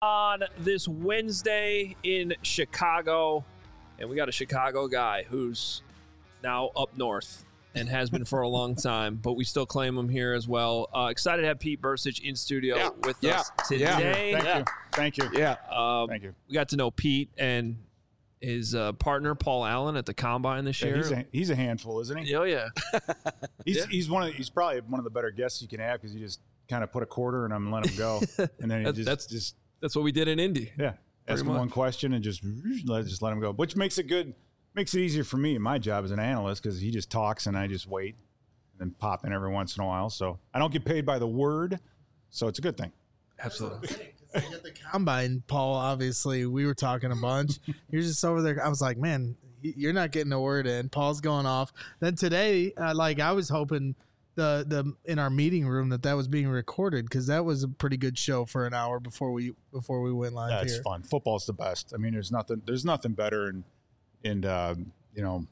On this Wednesday in Chicago, and we got a Chicago guy who's now up north and has been for a long time, but we still claim him here as well. Excited to have Pete Bercich in studio with us today. Thank you. Thank you. We got to know Pete and his partner Paul Allen at the Combine this year. He's a handful, isn't he? Oh yeah. He's probably one of the better guests you can have because you just kind of put a quarter in him and let him go, and then that's what we did in Indy. Yeah, ask him one question and just let him go, which makes it good. Makes it easier for me in my job as an analyst because he just talks and I just wait and then pop in every once in a while. So I don't get paid by the word, so it's a good thing. Absolutely. At the Combine, Paul, obviously, we were talking a bunch. You're just over there. I was like, man, you're not getting a word in. Paul's going off. Then today, I was hoping the in our meeting room that was being recorded because that was a pretty good show for an hour before we went live. That's fun. Football's the best. I mean, there's nothing better, and you know,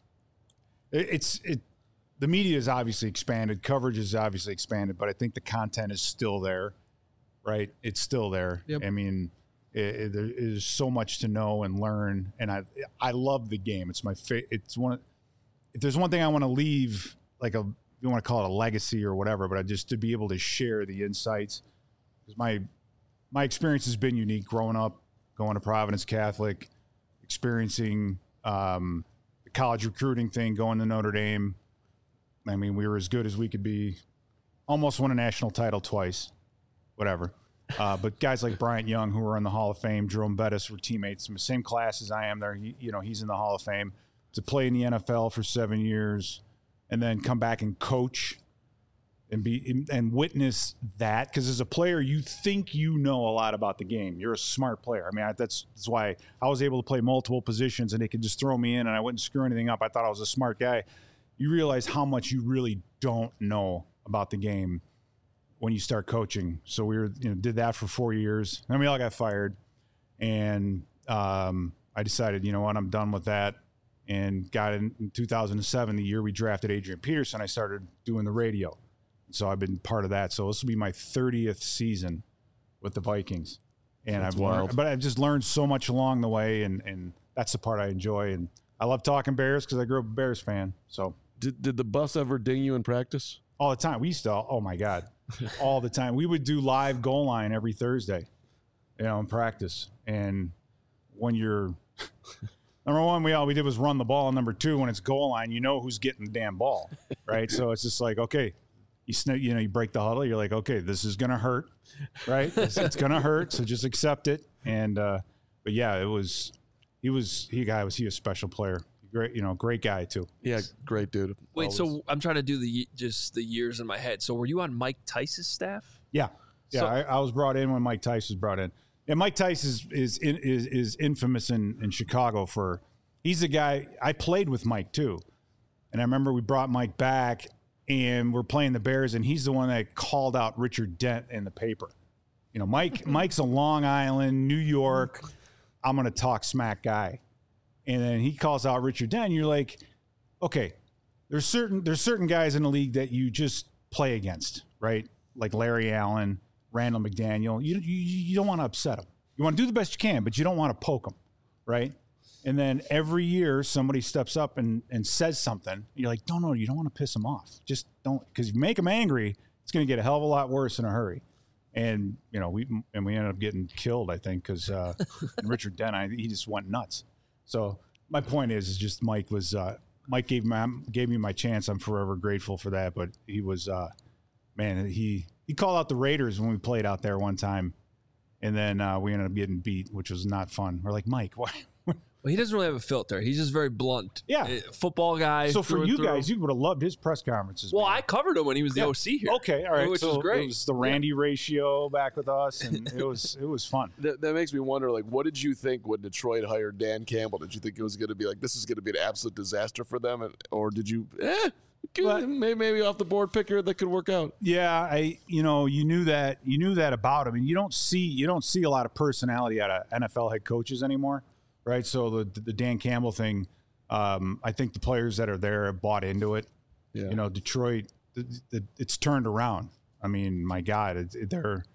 the media is obviously expanded, coverage is obviously expanded, but I think the content is still there, right? It's still there. Yep. I mean, there is so much to know and learn, and I love the game. It's my it's one. If there's one thing I want to leave, like you want to call it a legacy or whatever, but just to be able to share the insights, because my experience has been unique growing up, going to Providence Catholic, experiencing the college recruiting thing, going to Notre Dame. I mean, we were as good as we could be. Almost won a national title twice, whatever. But guys like Bryant Young, who were in the Hall of Fame, Jerome Bettis were teammates in the same class as I am. There, he's in the Hall of Fame. To play in the NFL for 7 years, and then come back and coach and witness that, because as a player, you think you know a lot about the game. You're a smart player. I mean, that's why I was able to play multiple positions, and they could just throw me in, and I wouldn't screw anything up. I thought I was a smart guy. You realize how much you really don't know about the game when you start coaching. So we did that for 4 years, and then we all got fired, and I decided, you know what, I'm done with that. And got in 2007, the year we drafted Adrian Peterson, I started doing the radio. So I've been part of that. So this will be my 30th season with the Vikings. And I've just learned so much along the way, and that's the part I enjoy. And I love talking Bears because I grew up a Bears fan. So did the bus ever ding you in practice? All the time. We used to, oh my God, all the time. We would do live goal line every Thursday, in practice. And when you're number one, all we did was run the ball. Number two, when it's goal line, you know who's getting the damn ball, right? So it's just like, okay, you break the huddle. You're like, okay, this is gonna hurt, right? It's gonna hurt, so just accept it. And but yeah, he was a special player, great guy too. Yeah, great dude. Wait, always. So I'm trying to do the years in my head. So were you on Mike Tice's staff? Yeah. So, I was brought in when Mike Tice was brought in. And Mike Tice is infamous in Chicago for, he's the guy, I played with Mike too. And I remember we brought Mike back and we're playing the Bears, and he's the one that called out Richard Dent in the paper. Mike's a Long Island, New York, I'm going to talk smack guy. And then he calls out Richard Dent, and you're like, okay, there's certain guys in the league that you just play against, right? Like Larry Allen, Randall McDaniel. You don't want to upset them. You want to do the best you can, but you don't want to poke them, right? And then every year somebody steps up and says something. And you're like, no, you don't want to piss them off. Just don't, because if you make them angry, it's going to get a hell of a lot worse in a hurry. And we ended up getting killed, I think, because Richard Dent, he just went nuts. So my point is just Mike gave me my chance. I'm forever grateful for that. But he was, he called out the Raiders when we played out there one time, and then we ended up getting beat, which was not fun. We're like, Mike, why? Well, he doesn't really have a filter. He's just very blunt. Yeah. Football guy. So for you guys, you would have loved his press conferences. Well, I covered him when he was the OC here. Okay, all right. Which was great. It was the Randy ratio back with us, and it was fun. That makes me wonder, what did you think when Detroit hired Dan Campbell? Did you think it was going to be this is going to be an absolute disaster for them? Or did you, maybe off the board picker that could work out? Yeah, you knew that about him, and you don't see a lot of personality out of NFL head coaches anymore. Right, so the Dan Campbell thing, I think the players that are there have bought into it. Yeah. Detroit, it's turned around. I mean, my God,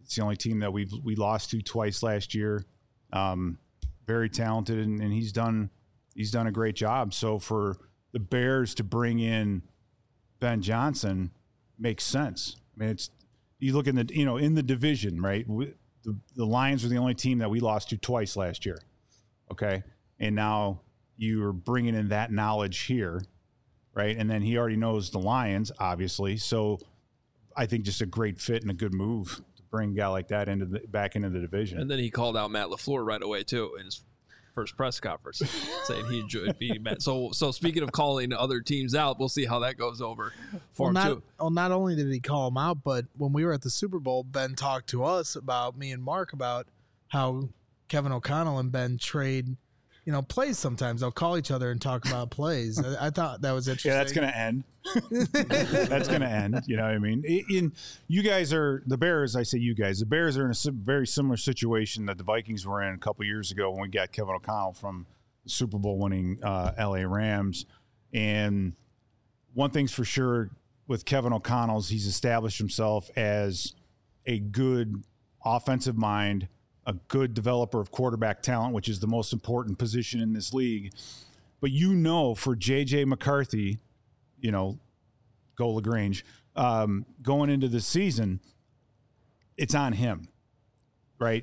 It's the only team that we lost to twice last year. Very talented, and he's done a great job. So for the Bears to bring in Ben Johnson makes sense. I mean, you look in the division, right? The Lions were the only team that we lost to twice last year. Okay, and now you're bringing in that knowledge here, right? And then he already knows the Lions, obviously. So I think just a great fit and a good move to bring a guy like that back into the division. And then he called out Matt LaFleur right away too in his first press conference, saying he enjoyed beating Matt. So speaking of calling other teams out, we'll see how that goes over for him too. Well, not only did he call him out, but when we were at the Super Bowl, Ben talked to us about, me and Mark, about how Kevin O'Connell and Ben trade, plays sometimes. They'll call each other and talk about plays. I thought that was interesting. Yeah, that's going to end. That's going to end. You know what I mean? You guys are the Bears. I say you guys. The Bears are in a very similar situation that the Vikings were in a couple years ago when we got Kevin O'Connell from the Super Bowl winning LA Rams. And one thing's for sure with Kevin O'Connell, he's established himself as a good offensive mind, a good developer of quarterback talent, which is the most important position in this league. But for J.J. McCarthy, go LaGrange, going into the season, it's on him, right?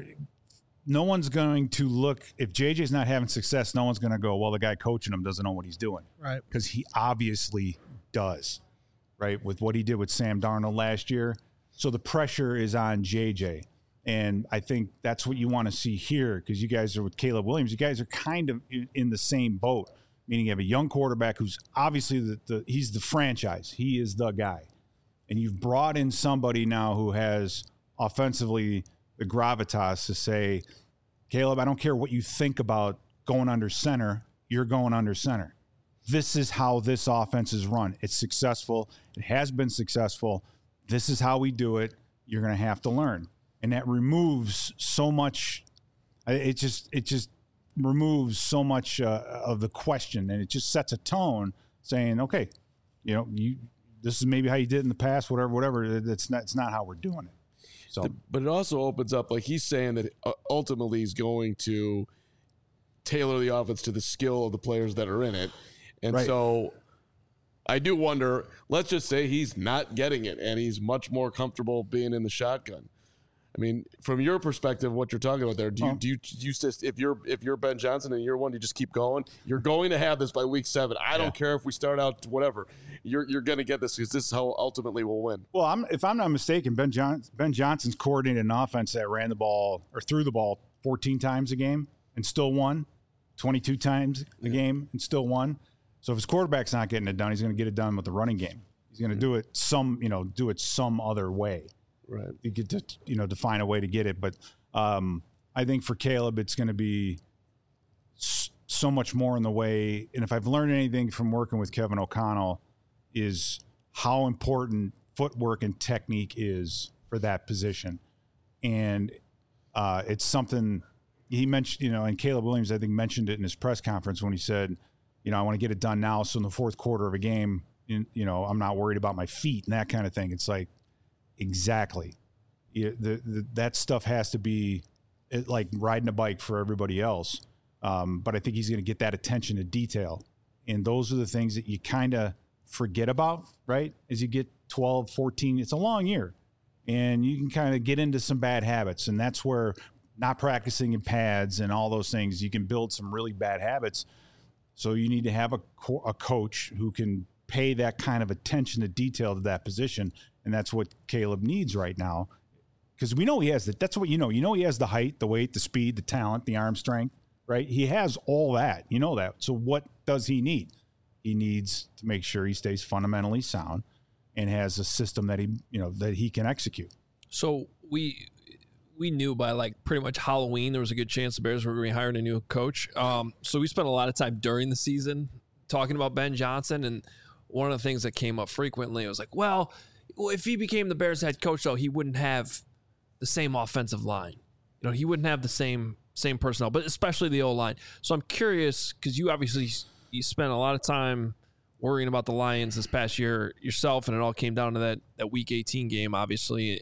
No one's going to look – if J.J.'s not having success, no one's going to go, well, the guy coaching him doesn't know what he's doing. Right. Because he obviously does, right, with what he did with Sam Darnold last year. So the pressure is on J.J., and I think that's what you want to see here, because you guys are with Caleb Williams. You guys are kind of in the same boat, meaning you have a young quarterback who's obviously he's the franchise. He is the guy. And you've brought in somebody now who has offensively the gravitas to say, Caleb, I don't care what you think about going under center. You're going under center. This is how this offense is run. It's successful. It has been successful. This is how we do it. You're going to have to learn. And that removes so much. It just removes so much of the question, and it just sets a tone saying, okay, this is maybe how you did it in the past, whatever. It's not how we're doing it. So, but it also opens up, like he's saying that ultimately he's going to tailor the offense to the skill of the players that are in it, and right. So I do wonder. Let's just say he's not getting it, and he's much more comfortable being in the shotgun. I mean, from your perspective, what you're talking about there, do you just, if you're Ben Johnson in year one, you just keep going? You're going to have this by week 7. I don't care if we start out whatever. You're going to get this because this is how ultimately we'll win. Well, if I'm not mistaken, Ben Johnson's coordinated an offense that ran the ball or threw the ball 14 times a game and still won, 22 times a game and still won. So if his quarterback's not getting it done, he's going to get it done with the running game. He's going to do it some other way. Right. You get to, to find a way to get it. But I think for Caleb, it's going to be so much more in the way. And if I've learned anything from working with Kevin O'Connell is how important footwork and technique is for that position. And it's something he mentioned, and Caleb Williams, I think, mentioned it in his press conference when he said, I want to get it done now. So in the fourth quarter of a game, I'm not worried about my feet and that kind of thing. It's like, exactly. That stuff has to be like riding a bike for everybody else. But I think he's going to get that attention to detail. And those are the things that you kind of forget about, right? As you get 12, 14, it's a long year. And you can kind of get into some bad habits. And that's where not practicing in pads and all those things, you can build some really bad habits. So you need to have a coach who can pay that kind of attention to detail to that position. And that's what Caleb needs right now, because we know he has that. That's what he has the height, the weight, the speed, the talent, the arm strength, right? He has all that. You know that. So what does he need? He needs to make sure he stays fundamentally sound and has a system that he can execute. So we knew by like pretty much Halloween there was a good chance the Bears were going to be hiring a new coach. So we spent a lot of time during the season talking about Ben Johnson, and one of the things that came up frequently was like, well, if he became the Bears head coach, though, he wouldn't have the same offensive line. He wouldn't have the same personnel, but especially the O-line. So I'm curious, because you spent a lot of time worrying about the Lions this past year yourself, and it all came down to that Week 18 game, obviously,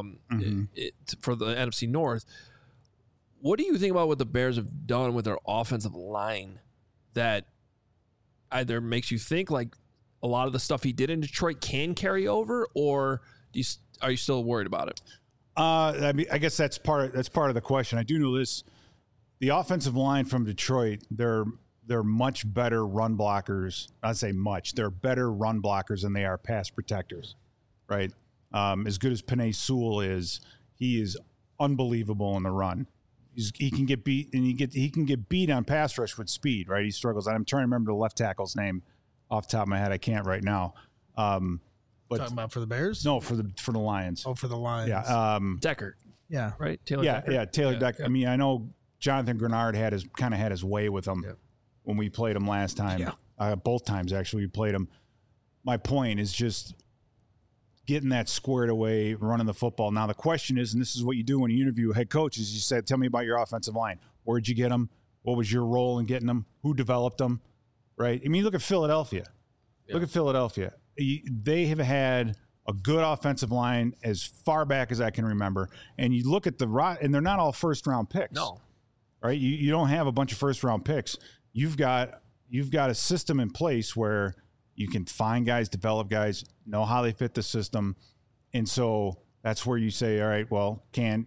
for the NFC North. What do you think about what the Bears have done with their offensive line that either makes you think like a lot of the stuff he did in Detroit can carry over, or are you still worried about it? I mean, I guess that's part of the question. I do know this: the offensive line from Detroit, they're much better run blockers. I'd say much. They're better run blockers than they are pass protectors, right? As good as Penei Sewell is, he is unbelievable in the run. He can get beat, and he can get beat on pass rush with speed, right? He struggles. I'm trying to remember the left tackle's name off the top of my head. I can't right now. But Talking about for the Bears? No, for the Lions. Oh, for the Lions. Yeah. Decker. Yeah. Right? Taylor Decker. Yeah, Taylor Decker. I mean, I know Jonathan Grenard had his way with him when we played him last time. Yeah. Both times, actually, we played him. My point is just getting that squared away, running the football. Now, the question is, and this is what you do when you interview head coaches, you said, tell me about your offensive line. Where'd you get them? What was your role in getting them? Who developed them? Right? I mean, look at Philadelphia. Yeah. Look at Philadelphia. They have had a good offensive line as far back as I can remember. And you look at and they're not all first-round picks. No. Right? You don't have a bunch of first-round picks. You've got a system in place where you can find guys, develop guys, know how they fit the system. And so that's where you say, all right, well,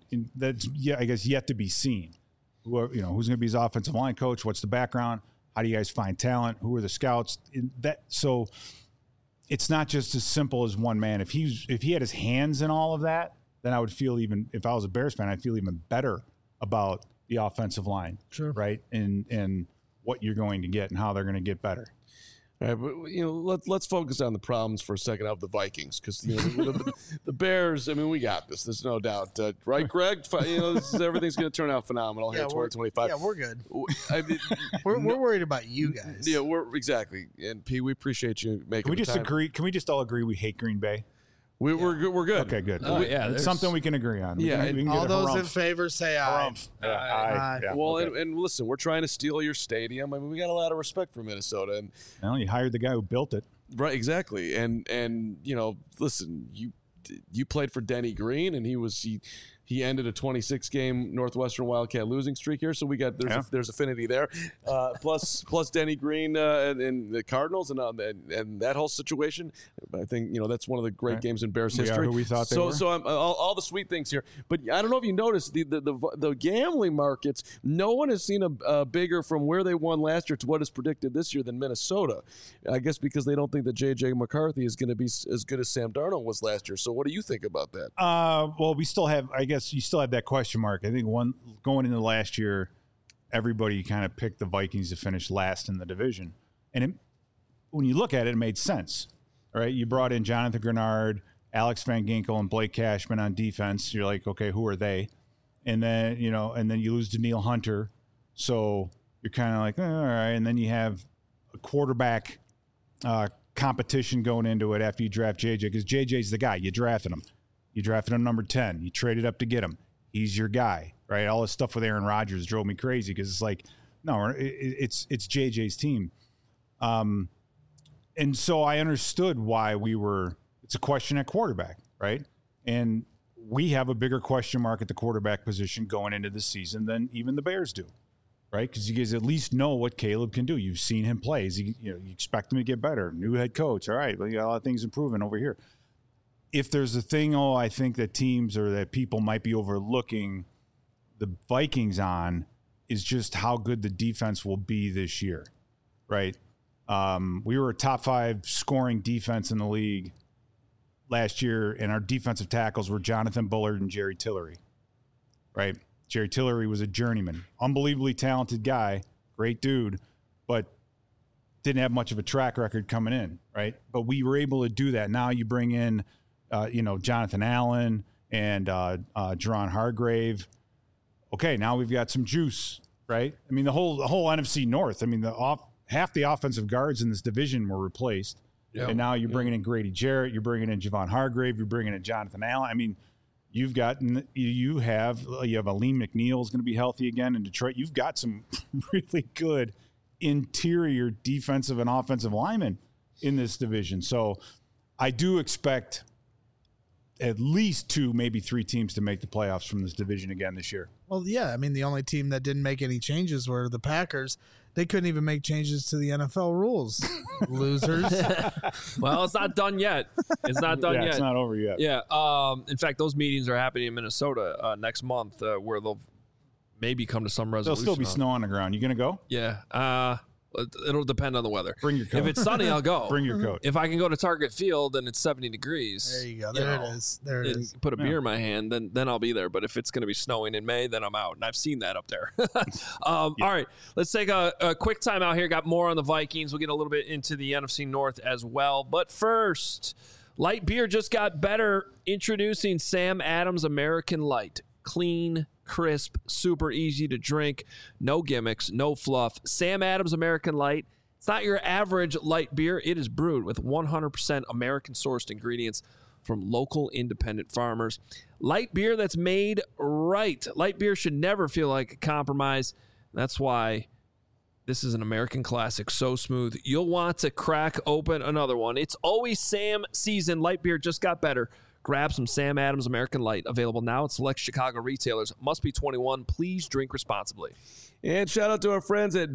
I guess yet to be seen. Who's going to be his offensive line coach? What's the background? How do you guys find talent? Who are the scouts? So it's not just as simple as one man. If he had his hands in all of that, then I would feel if I was a Bears fan, I'd feel even better about the offensive line. Sure. Right. And what you're going to get and how they're going to get better. All right, but let's focus on the problems for a second of the Vikings, because the Bears. I mean, we got this. There's no doubt, right, Greg? Everything's going to turn out phenomenal here in 2025. Yeah, we're good. I mean, we're worried about you guys. Yeah, we're exactly. And P, we appreciate you making. Can we just time. agree? Can we just all agree we hate Green Bay? We're good. Okay, good. It's something we can agree on. Yeah, we can all get those in favor say aye. Aye. Yeah, well, okay. and listen, we're trying to steal your stadium. I mean, we got a lot of respect for Minnesota, and well, you hired the guy who built it, right? Exactly. And listen, you played for Denny Green, and he ended a 26-game Northwestern Wildcat losing streak here, so we got there's affinity there. Plus Denny Green and the Cardinals and that whole situation. I think that's one of the great games in Bears history. Who we thought they were. So all the sweet things here, but I don't know if you noticed the gambling markets. No one has seen a bigger from where they won last year to what is predicted this year than Minnesota. I guess because they don't think that J.J. McCarthy is going to be as good as Sam Darnold was last year. So what do you think about that? Well, we still have. I guess you still have that question mark. I think going into last year, everybody kind of picked the Vikings to finish last in the division, and when you look at it, it made sense. All right, you brought in Jonathan Grenard, Alex Van Ginkel, and Blake Cashman on defense. You're like, okay, who are they? And then you lose Danielle Hunter, so you're kind of like, all right. And then you have a quarterback competition going into it after you draft JJ, because JJ's the guy. You drafted him. You drafted him number 10. You traded up to get him. He's your guy, right? All this stuff with Aaron Rodgers drove me crazy because it's like, no, it's JJ's team. And so I understood why it's a question at quarterback, right? And we have a bigger question mark at the quarterback position going into the season than even the Bears do, right? Because you guys at least know what Caleb can do. You've seen him play. You expect him to get better. New head coach. All right, well, you got a lot of things improving over here. If there's a thing, I think that teams or that people might be overlooking the Vikings on is just how good the defense will be this year, right? We were a top 5 scoring defense in the league last year, and our defensive tackles were Jonathan Bullard and Jerry Tillery, right? Jerry Tillery was a journeyman, unbelievably talented guy, great dude, but didn't have much of a track record coming in, right? But we were able to do that. Now you bring in Jonathan Allen and Jerron Hargrave. Okay, now we've got some juice, right? I mean, the whole NFC North. I mean, half the offensive guards in this division were replaced, and now you're bringing in Grady Jarrett, you're bringing in Javon Hargrave, you're bringing in Jonathan Allen. I mean, you have Aleem McNeil is going to be healthy again in Detroit. You've got some really good interior defensive and offensive linemen in this division. So I do expect at least 2, maybe 3 teams to make the playoffs from this division again this year. Well, yeah. I mean, the only team that didn't make any changes were the Packers. They couldn't even make changes to the NFL rules. Losers. Well, it's not done yet. It's not done yet. It's not over yet. Yeah. In fact, those meetings are happening in Minnesota next month, where they'll maybe come to some resolution. There'll still be snow on the ground. You going to go? Yeah. It'll depend on the weather. Bring your coat. If it's sunny, I'll go. Bring your coat. If I can go to Target Field and it's 70 degrees, There you go. There it is. There it and is. put a beer in my hand, then I'll be there. But if it's going to be snowing in May, then I'm out. And I've seen that up there. All right, let's take a quick time out here. Got more on the Vikings. We'll get a little bit into the NFC North as well. But first, light beer just got better. Introducing Sam Adams American Light. Clean, crisp, super easy to drink. No gimmicks, no fluff. Sam Adams American Light. It's not your average light beer. It is brewed with 100% American-sourced ingredients from local independent farmers. Light beer that's made right. Light beer should never feel like a compromise. That's why this is an American classic, so smooth. You'll want to crack open another one. It's always Sam season. Light beer just got better. Grab some Sam Adams American Light. Available now at select Chicago retailers. Must be 21. Please drink responsibly. And shout out to our friends at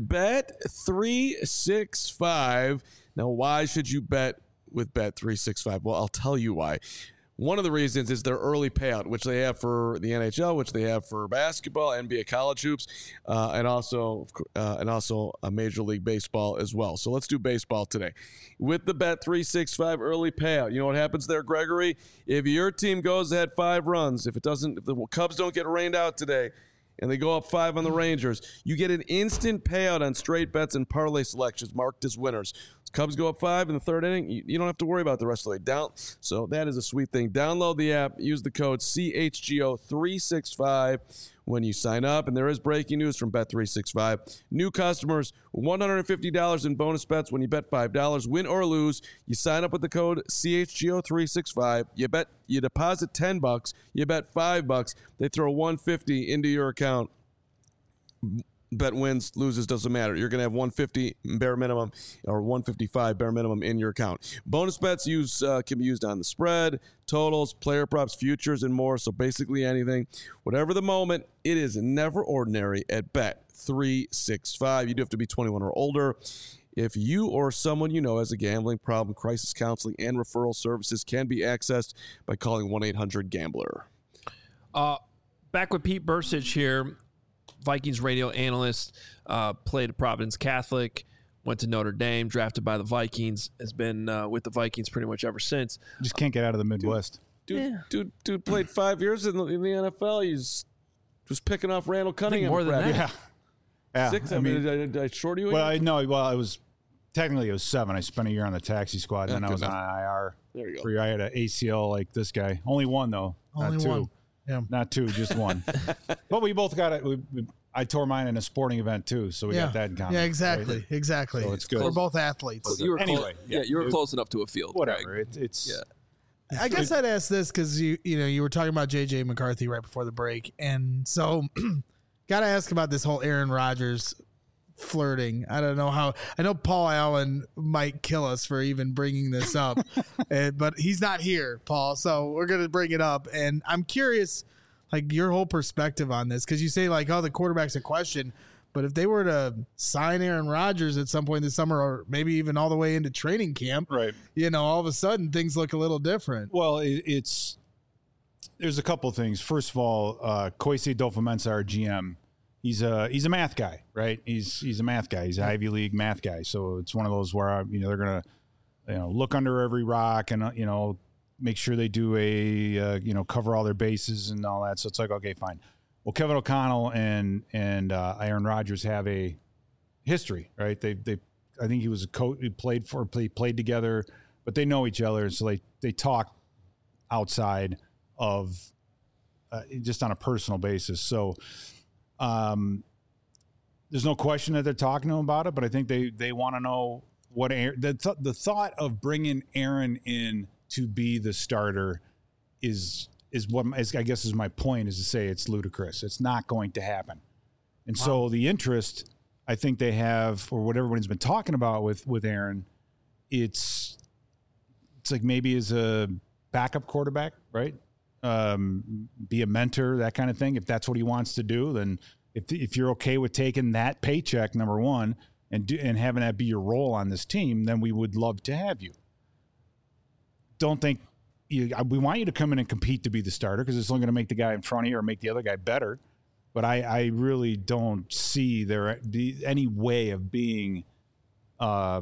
Bet365. Now, why should you bet with Bet365? Well, I'll tell you why. One of the reasons is their early payout, which they have for the NHL, which they have for basketball, NBA college hoops, and also a Major League Baseball as well. So let's do baseball today. With the Bet365 early payout, you know what happens there, Gregory? If your team goes ahead 5 runs, if the Cubs don't get rained out today, and they go up 5 on the Rangers, you get an instant payout on straight bets and parlay selections marked as winners. Cubs go up 5 in the 3rd inning, you don't have to worry about the rest of the way. So that is a sweet thing. Download the app. Use the code CHGO365 when you sign up. And there is breaking news from Bet365. New customers, $150 in bonus bets when you bet $5. Win or lose, you sign up with the code CHGO365. You deposit $10. You bet $5. They throw $150 into your account. Bet wins, loses, doesn't matter. You're going to have 150 bare minimum or 155 bare minimum in your account. Bonus bets can be used on the spread, totals, player props, futures, and more. So basically anything. Whatever the moment, it is never ordinary at Bet365. You do have to be 21 or older. If you or someone you know has a gambling problem, crisis counseling and referral services can be accessed by calling 1-800-GAMBLER. Back with Pete Bursich here. Vikings radio analyst, played at Providence Catholic, went to Notre Dame, drafted by the Vikings, has been with the Vikings pretty much ever since. Just can't get out of the Midwest. Dude played 5 years in the NFL. He's just picking off Randall Cunningham. More than that. Yeah. 6. I mean, did I short you? Well, it was technically it was 7. I spent a year on the taxi squad, and then I was on IR. There you go. Where I had an ACL like this guy. Only 1 though, Only not 2. 1. Yeah. Not 2, just 1. But we both got it. I tore mine in a sporting event too, so we got that in common. Yeah, exactly. Right? Exactly. So it's good. We're both athletes. You were Anyway, you were close enough to a field. Whatever. Greg. It's I guess I'd ask this because you were talking about JJ McCarthy right before the break, and so got to ask about this whole Aaron Rodgers flirting. I don't know how. I know Paul Allen might kill us for even bringing this up, but he's not here, Paul. So we're gonna bring it up, and I'm curious, like your whole perspective on this, because you say like, oh, the quarterback's a question. But if they were to sign Aaron Rodgers at some point this summer, or maybe even all the way into training camp, right. All of a sudden things look a little different. Well, there's a couple of things. First of all, Kwesi Adofo-Mensah, our GM, he's a math guy, right? He's a math guy. He's an Ivy League math guy. So it's one of those where they're gonna look under every rock and make sure they do a cover all their bases and all that. So it's like, okay, fine. Well, Kevin O'Connell and Aaron Rodgers have a history, right? They I think he was a coach. He played together, but they know each other, so they talk outside of just on a personal basis. So there's no question that they're talking to him about it, but I think they want to know what the thought of bringing Aaron in to be the starter is what I guess is my point, is to say it's ludicrous. It's not going to happen. And so the interest I think they have, or what everyone's been talking about with Aaron, it's like maybe as a backup quarterback, right? Be a mentor, that kind of thing. If that's what he wants to do, then if you're okay with taking that paycheck, number one, and having that be your role on this team, then we would love to have you. Don't think we want you to come in and compete to be the starter because it's only going to make the guy in front of you or make the other guy better. But I really don't see there any way of being a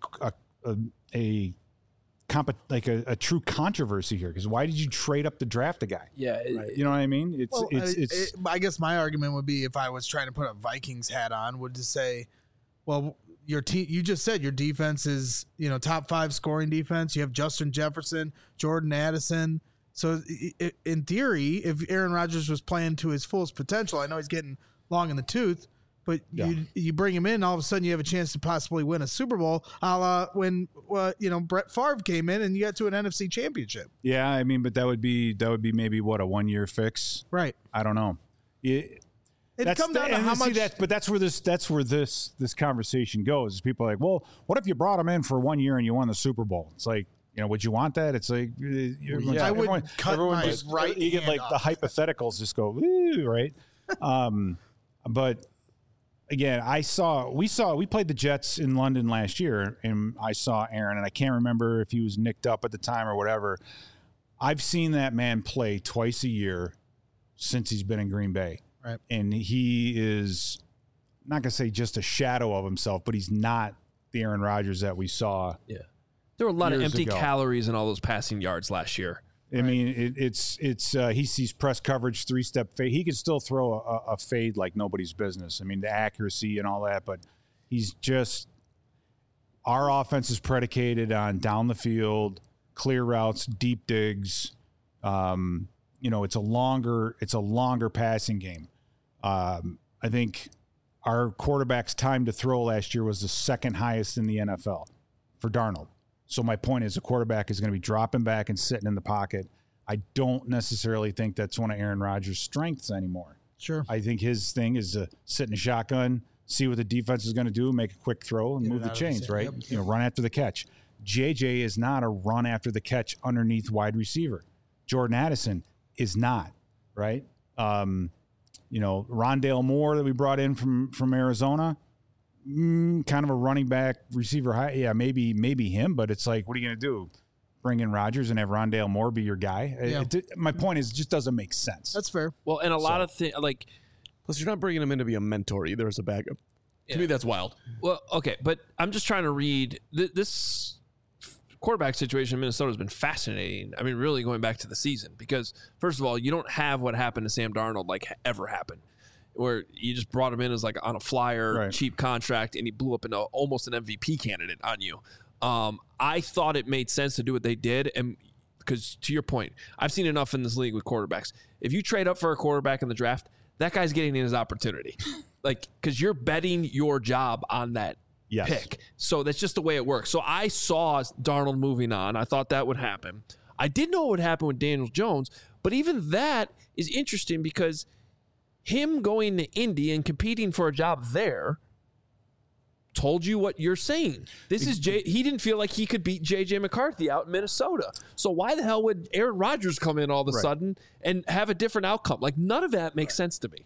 true controversy here. Because why did you trade up to draft a guy? Yeah, you know what I mean. I guess my argument would be if I was trying to put a Vikings hat on, would to say, well, your team. You just said your defense is top 5 scoring defense. You have Justin Jefferson, Jordan Addison. So in theory, if Aaron Rodgers was playing to his fullest potential, I know he's getting long in the tooth, but you bring him in, all of a sudden you have a chance to possibly win a Super Bowl, a la when Brett Favre came in and you got to an NFC Championship. Yeah, I mean, but that would be maybe what, a 1-year fix, right? I don't know. It comes down to how much. But that's where this conversation goes. People are like, well, what if you brought him in for 1 year and you won the Super Bowl? It's like, would you want that? It's like, I would cut my right. You get like the hypotheticals just go, ooh, right? But again, we played the Jets in London last year, and I saw Aaron, and I can't remember if he was nicked up at the time or whatever. I've seen that man play twice a year since he's been in Green Bay. Right. And he is not going to say just a shadow of himself, but he's not the Aaron Rodgers that we saw. Yeah. There were a lot of empty calories in all those passing yards last year. I mean, it's he sees press coverage, 3-step fade. He could still throw a fade like nobody's business. I mean, the accuracy and all that, but he's just – our offense is predicated on down the field, clear routes, deep digs. It's a longer passing game. I think our quarterback's time to throw last year was the second highest in the NFL for Darnold. So my point is, a quarterback is going to be dropping back and sitting in the pocket. I don't necessarily think that's one of Aaron Rodgers' strengths anymore. Sure. I think his thing is to sit in a shotgun, see what the defense is going to do, make a quick throw, and move the chains, right? Yep. Run after the catch. JJ is not a run after the catch underneath wide receiver. Jordan Addison is not, right? Rondale Moore that we brought in from Arizona, kind of a running back receiver. Yeah, maybe him, but it's like, what are you going to do? Bring in Rodgers and have Rondale Moore be your guy? Yeah. My point is, it just doesn't make sense. That's fair. Well, and a lot of things, like, plus you're not bringing him in to be a mentor either as a backup. To me, that's wild. Well, okay, but I'm just trying to read this quarterback situation in Minnesota has been fascinating. I mean, really going back to the season, because first of all, you don't have what happened to Sam Darnold ever happened, where you just brought him in as on a flyer, cheap contract, and he blew up into almost an MVP candidate on you. I thought it made sense to do what they did, and because to your point, I've seen enough in this league with quarterbacks. If you trade up for a quarterback in the draft, that guy's getting in his opportunity, because you're betting your job on that pick. So that's just the way it works. So I saw Darnold moving on. I thought that would happen. I didn't know what would happen with Daniel Jones, but even that is interesting because him going to Indy and competing for a job there told you what you're saying. He didn't feel like he could beat J.J. McCarthy out in Minnesota. So why the hell would Aaron Rodgers come in all of a sudden and have a different outcome? None of that makes sense to me.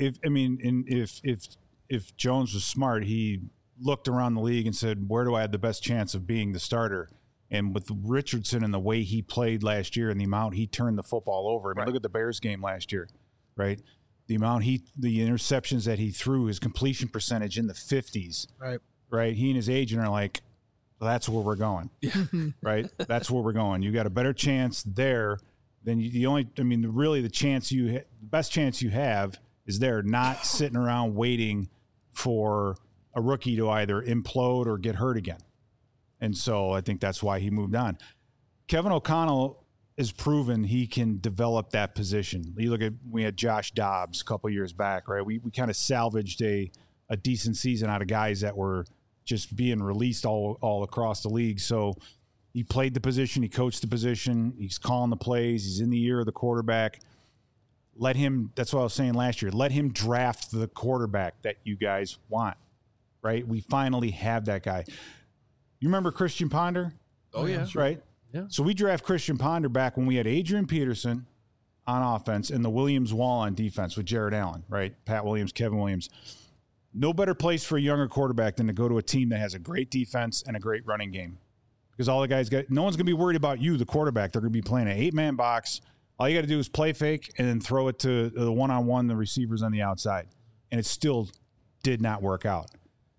If Jones was smart, he looked around the league and said, where do I have the best chance of being the starter? And with Richardson and the way he played last year and the amount he turned the football over, look at the Bears game last year, right? The amount the interceptions that he threw, his completion percentage in the 50s, right? He and his agent are like, well, that's where we're going, right? That's where we're going. You got a better chance there than the best chance you have is there, not sitting around waiting for a rookie to either implode or get hurt again. And so I think that's why he moved on. Kevin O'Connell has proven he can develop that position. You look at, we had Josh Dobbs a couple years back, right? We kind of salvaged a decent season out of guys that were just being released all across the league. So he played the position, he coached the position, he's calling the plays, he's in the ear of the quarterback. That's what I was saying last year, let him draft the quarterback that you guys want, right? We finally have that guy. You remember Christian Ponder? Oh, yeah. Right? Yeah. So we draft Christian Ponder back when we had Adrian Peterson on offense and the Williams wall on defense with Jared Allen, right? Pat Williams, Kevin Williams. No better place for a younger quarterback than to go to a team that has a great defense and a great running game. Because all the guys no one's going to be worried about you, the quarterback. They're going to be playing an 8-man box. All you got to do is play fake and then throw it to the one-on-one, the receivers on the outside. And it still did not work out.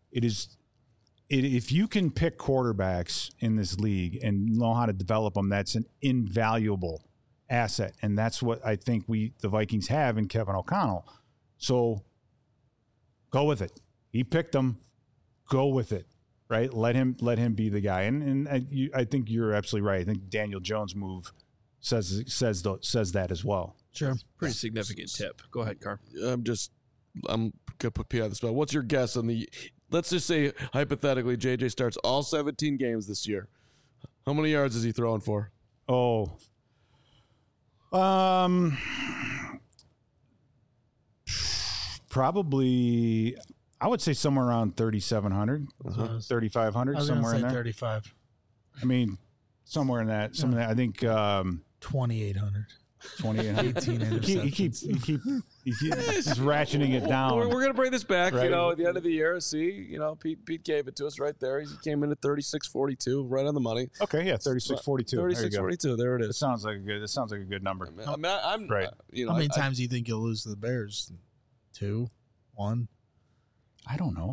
If you can pick quarterbacks in this league and know how to develop them, that's an invaluable asset. And that's what I think the Vikings have in Kevin O'Connell. So go with it. He picked them. Go with it. Right? Let him be the guy. And I think you're absolutely right. I think Daniel Jones' move says that as well. Sure. Pretty significant tip. Go ahead, Carm. I'm gonna put P on the spot. What's your guess on let's just say hypothetically JJ starts all 17 games this year. How many yards is he throwing for? Probably I would say somewhere around 3,700, 3,500, somewhere in there. 35. I mean, somewhere in that. Some of that. I think 2,800. 2,800. 18 interceptions. He's ratcheting it down. We're gonna bring this back. Right. At the end of the year. See, Pete gave it to us right there. He came in at 36.42, right on the money. Okay, yeah, 36.42. 36.42. There it It is. sounds like a good number. I mean, I'm Right. How many times do you think you'll lose to the Bears? 2? 1? I don't know.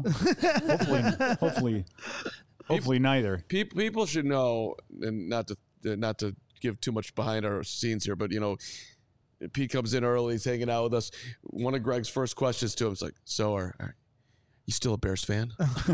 Hopefully neither. People should know, and not to give too much behind our scenes here, but Pete comes in early, he's hanging out with us. One of Greg's first questions to him is like, "So are you still a Bears fan?"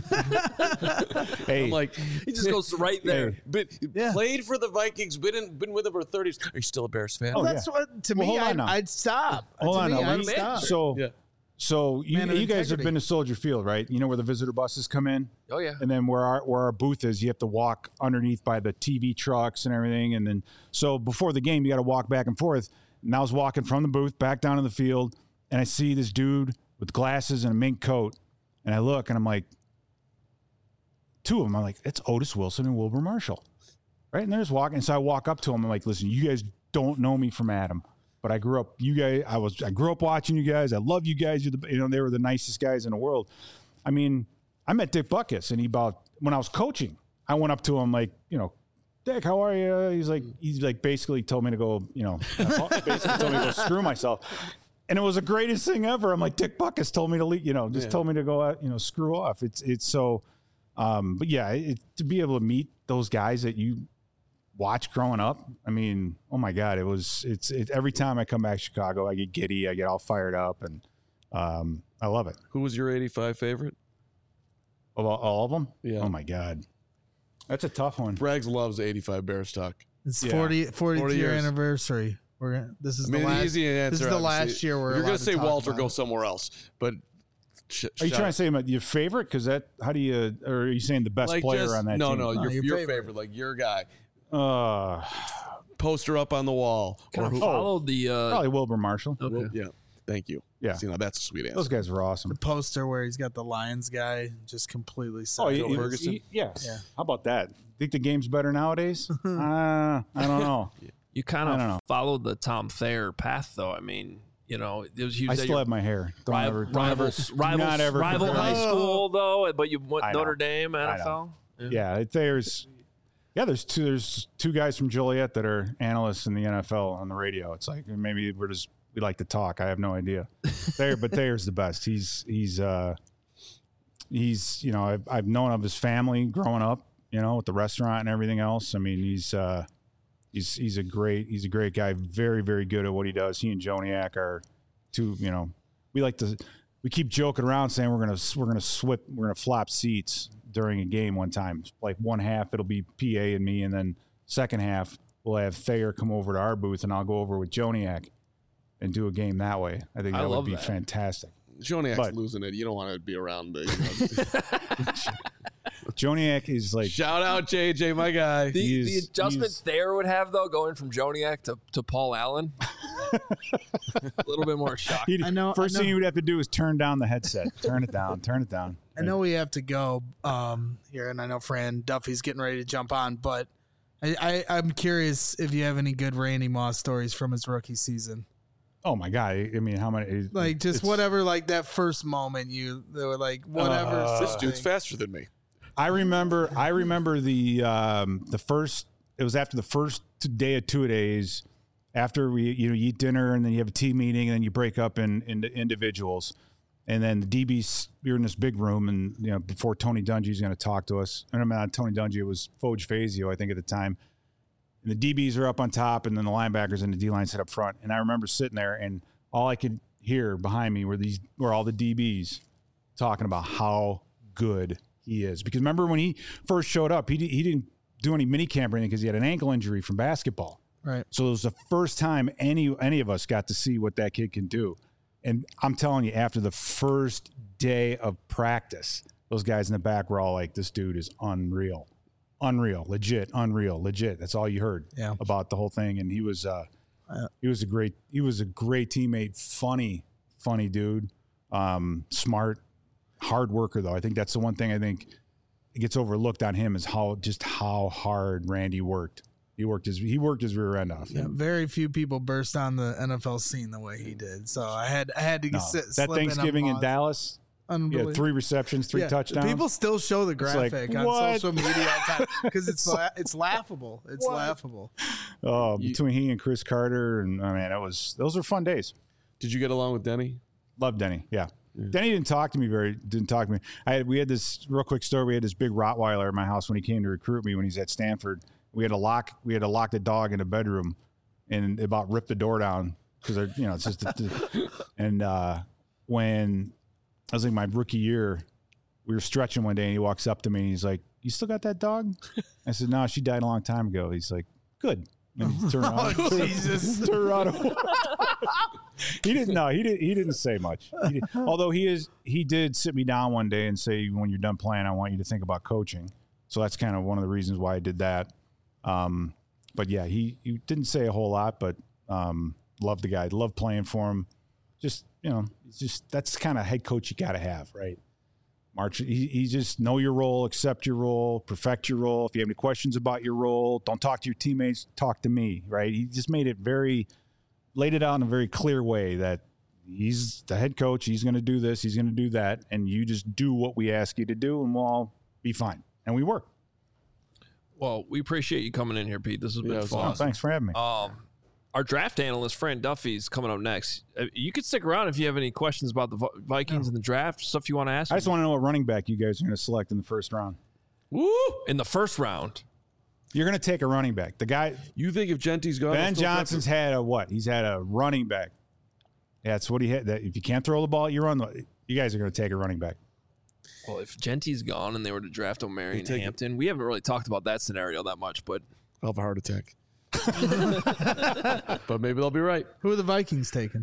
Hey, I'm like, He just goes right there. played for the Vikings, been with them for 30 years. Are you still a Bears fan? Oh, That's what, to Well, me, hold on now. I'd stop. Hold To on me, now. I'd stop. So Man of you guys have integrity. been to Soldier Field, right? You know where the visitor buses come in? Oh, yeah. And then where our booth is, you have to walk underneath by the TV trucks and everything. And then, so before the game, you got to walk back and forth. And I was walking from the booth back down to the field, and I see this dude with glasses and a mink coat. And I look, and I'm like, two of them. I'm like, it's Otis Wilson and Wilbur Marshall, right? And they're just walking. And so I walk up to them. I'm like, listen, you guys don't know me from Adam, but I grew up. I grew up watching you guys. I love you guys. They were the nicest guys in the world. I mean, I met Dick Butkus, and when I was coaching, I went up to him like, Dick, how are you? He's like basically told me to go, basically told me to go screw myself. And it was the greatest thing ever. I'm like, Dick Butkus told me to leave, told me to go out, screw off. It's so, but yeah, to be able to meet those guys that you watch growing up. I mean, oh my God, it's every time I come back to Chicago, I get giddy, I get all fired up, and I love it. Who was your 85 favorite? Of all of them? Yeah. Oh my God. That's a tough one. Braggs loves 85 Bears talk. It's Yeah. 40th year years. anniversary. This is I mean, the the last. easy answer. This is the last obviously. year we're You're allowed gonna to say talk Walter, about go it. somewhere else. But Are you trying to say your favorite? Because how do you, or are you saying the best player on that no, team? No, No, your your favorite, like your guy. Uh, Poster up on the wall. Kind of followed the. probably Wilbur Marshall. Okay. Yeah, thank you. Yeah. See, now that's a sweet answer. Those guys were awesome. The poster where he's got the Lions guy just completely. Oh, Ferguson? yes. Yeah. How about that? Think the game's better nowadays? I don't know. You kind I don't of know. followed the Tom Thayer path, though. I mean, there was I still have my hair. Don't ever rival high school, though, but you went I know. Notre Dame, NFL. Yeah, there's two guys from Joliet that are analysts in the NFL on the radio. It's like maybe we like to talk. I have no idea. Thayer's the best. He's I've known of his family growing up, with the restaurant and everything else. I mean, he's a great guy. Very, very good at what he does. He and Joniak are two. We keep joking around saying we're gonna flop seats during a game one time. Like one half it'll be PA and me, and then second half we'll have Thayer come over to our booth, and I'll go over with Joniak and do a game that way. I think that would be fantastic. Joniak's losing it. You don't want to be around the. Joniak is like Shout out JJ, my guy. The adjustment Thayer would have, though, going from Joniak to Paul Allen, a little bit more shock. I know. First thing you would have to do is turn down the headset. Turn it down. I know we have to go here, and I know Fran Duffy's getting ready to jump on, but I'm curious if you have any good Randy Moss stories from his rookie season. Oh my God! I mean, how many? Like just whatever, like that first moment they were like whatever. This dude's faster than me. I remember the first. It was after the first day of 2 days. After you eat dinner and then you have a team meeting and then you break up into individuals, and then the DBs, you're in this big room, and before Tony Dungy's going to talk to us. And I'm not Tony Dungy; it was Foge Fazio, I think, at the time. And the DBs are up on top, and then the linebackers and the D line sit up front. And I remember sitting there, and all I could hear behind me were all the DBs talking about how good he is. Because remember when he first showed up, he didn't do any mini camp or anything because he had an ankle injury from basketball. Right. So it was the first time any of us got to see what that kid can do. And I'm telling you, after the first day of practice, those guys in the back were all like, "This dude is unreal. Unreal, legit, unreal, legit." That's all you heard about the whole thing. And he was a great teammate, funny dude, smart, hard worker though. I think that's the one thing I think gets overlooked on him is how hard Randy worked. He worked his rear end off. Yeah, very few people burst on the NFL scene the way he did. So I had to sit that Thanksgiving in Dallas. Yeah, 3 receptions, 3 touchdowns. People still show the graphic on social media because it's laughable. It's laughable. Oh, between he and Chris Carter, and I mean, those are fun days. Did you get along with Denny? Love Denny. Yeah. Denny didn't talk to me. We had this real quick story. We had this big Rottweiler at my house when he came to recruit me when he's at Stanford. We had to lock the dog in the bedroom, and it about ripped the door down because it's just and when I was in my rookie year, we were stretching one day, and he walks up to me and he's like, "You still got that dog?" I said, "No, she died a long time ago." He's like, "Good." And he turned around. Jesus. Turned around. He didn't say much. Although he did sit me down one day and say, "When you're done playing, I want you to think about coaching." So that's kind of one of the reasons why I did that. But yeah, he didn't say a whole lot, but loved the guy, loved playing for him. That's the kind of head coach you got to have, right? March, he just know your role, accept your role, perfect your role. If you have any questions about your role, don't talk to your teammates, talk to me, right? He just laid it out in a very clear way that he's the head coach. He's going to do this. He's going to do that. And you just do what we ask you to do, and we'll all be fine. And we work. Well, we appreciate you coming in here, Pete. This has been fun. Awesome. Thanks for having me. Our draft analyst, Fran Duffy, is coming up next. You could stick around if you have any questions about the Vikings and the draft, stuff you want to ask. I just want to know what running back you guys are going to select in the first round. Woo! In the first round. You're going to take a running back. The guy. You think if Genty's gone? Ben Johnson's had a what? He's had a running back. That's what he had. That if you can't throw the ball, you guys are going to take a running back. Well, if Genty's gone and they were to draft O'Marion Hampton, we haven't really talked about that scenario that much, but I'll have a heart attack. But maybe they'll be right. Who are the Vikings taking?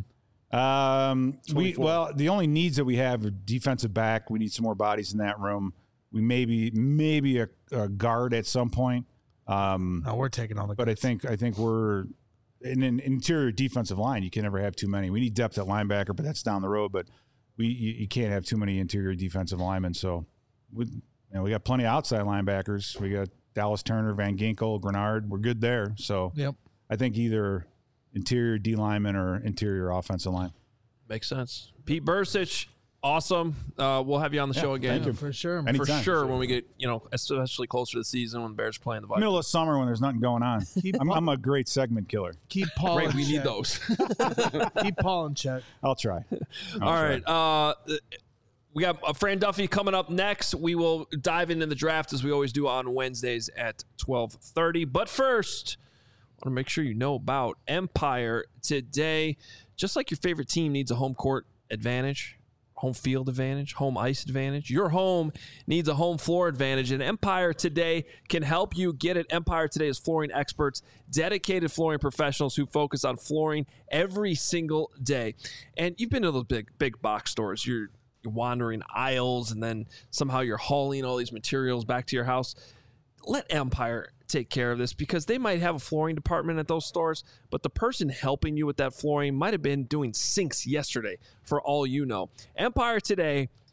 The only needs that we have are defensive back. We need some more bodies in that room. We maybe a guard at some point. We're taking all the but guards. I think we're in an interior defensive line. You can never have too many. We need depth at linebacker, but that's down the road. But you can't have too many interior defensive linemen. So we got plenty of outside linebackers. We got Dallas Turner, Van Ginkel, Grenard. We're good there. So I think either interior D lineman or interior offensive line. Makes sense. Pete Bercich, awesome. We'll have you on the show again. Thank you. For sure. Anytime. For sure, when we get, especially closer to the season when the Bears playing the Vikings. Middle of summer when there's nothing going on. I'm a great segment killer. Keep Paul Great, in we check. need those. Keep Paul in check. I'll try. All right. We got Fran Duffy coming up next. We will dive into the draft as we always do on Wednesdays at 12:30. But first, I want to make sure you know about Empire today. Just like your favorite team needs a home court advantage, home field advantage, home ice advantage, your home needs a home floor advantage, and Empire Today can help you get it. Empire Today is flooring experts, dedicated flooring professionals who focus on flooring every single day. And you've been to those big box stores. You're wandering aisles, and then somehow you're hauling all these materials back to your house. Let Empire take care of this, because they might have a flooring department at those stores, but the person helping you with that flooring might have been doing sinks yesterday, for all you know. Empire Today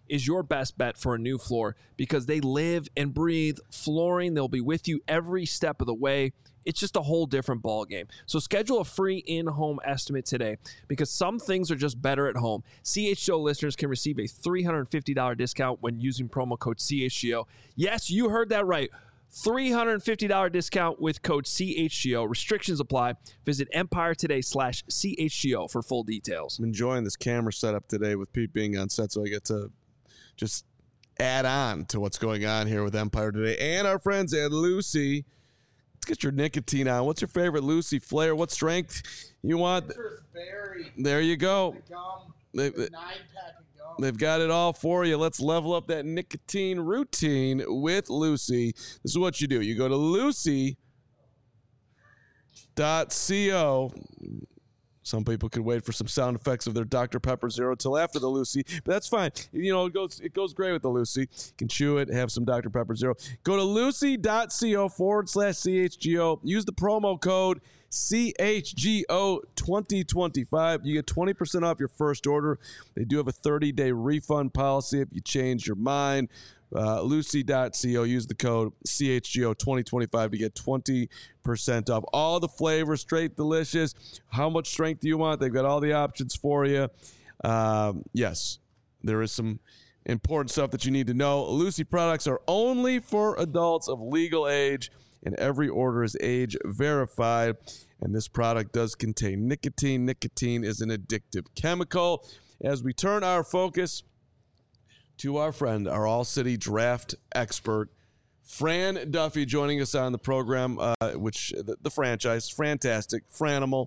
is your best bet for a new floor because they live and breathe flooring. They'll be with you every step of the way. It's just a whole different ball game. So schedule a free in-home estimate today because some things are just better at home. CHGO listeners can receive a $350 discount when using promo code CHGO. Yes, you heard that right. $350 discount with code CHGO. Restrictions apply. Visit EmpireToday.com/CHGO for full details. I'm enjoying this camera setup today with Pete being on set, so I get to just add on to what's going on here with Empire Today and our friends at Lucy. Let's get your nicotine on. What's your favorite Lucy flavor? What strength you want? Berry. There you go. The 9-pack of gum. They've got it all for you. Let's level up that nicotine routine with Lucy. This is what you do. You go to lucy.co. Some people could wait for some sound effects of their Dr. Pepper Zero till after the Lucy, but that's fine. You know, it goes great with the Lucy. You can chew it, have some Dr. Pepper Zero. Go to lucy.co/CHGO. Use the promo code CHGO2025. You get 20% off your first order. They do have a 30-day refund policy if you change your mind. Lucy.co. Use the code CHGO2025 to get 20% off. All the flavors, straight delicious. How much strength do you want? They've got all the options for you. Yes, there is some important stuff that you need to know. Lucy products are only for adults of legal age, and every order is age verified. And this product does contain nicotine. Nicotine is an addictive chemical. As we turn our focus to our friend, our All-City draft expert, Fran Duffy, joining us on the program, the franchise, Fantastic, Franimal,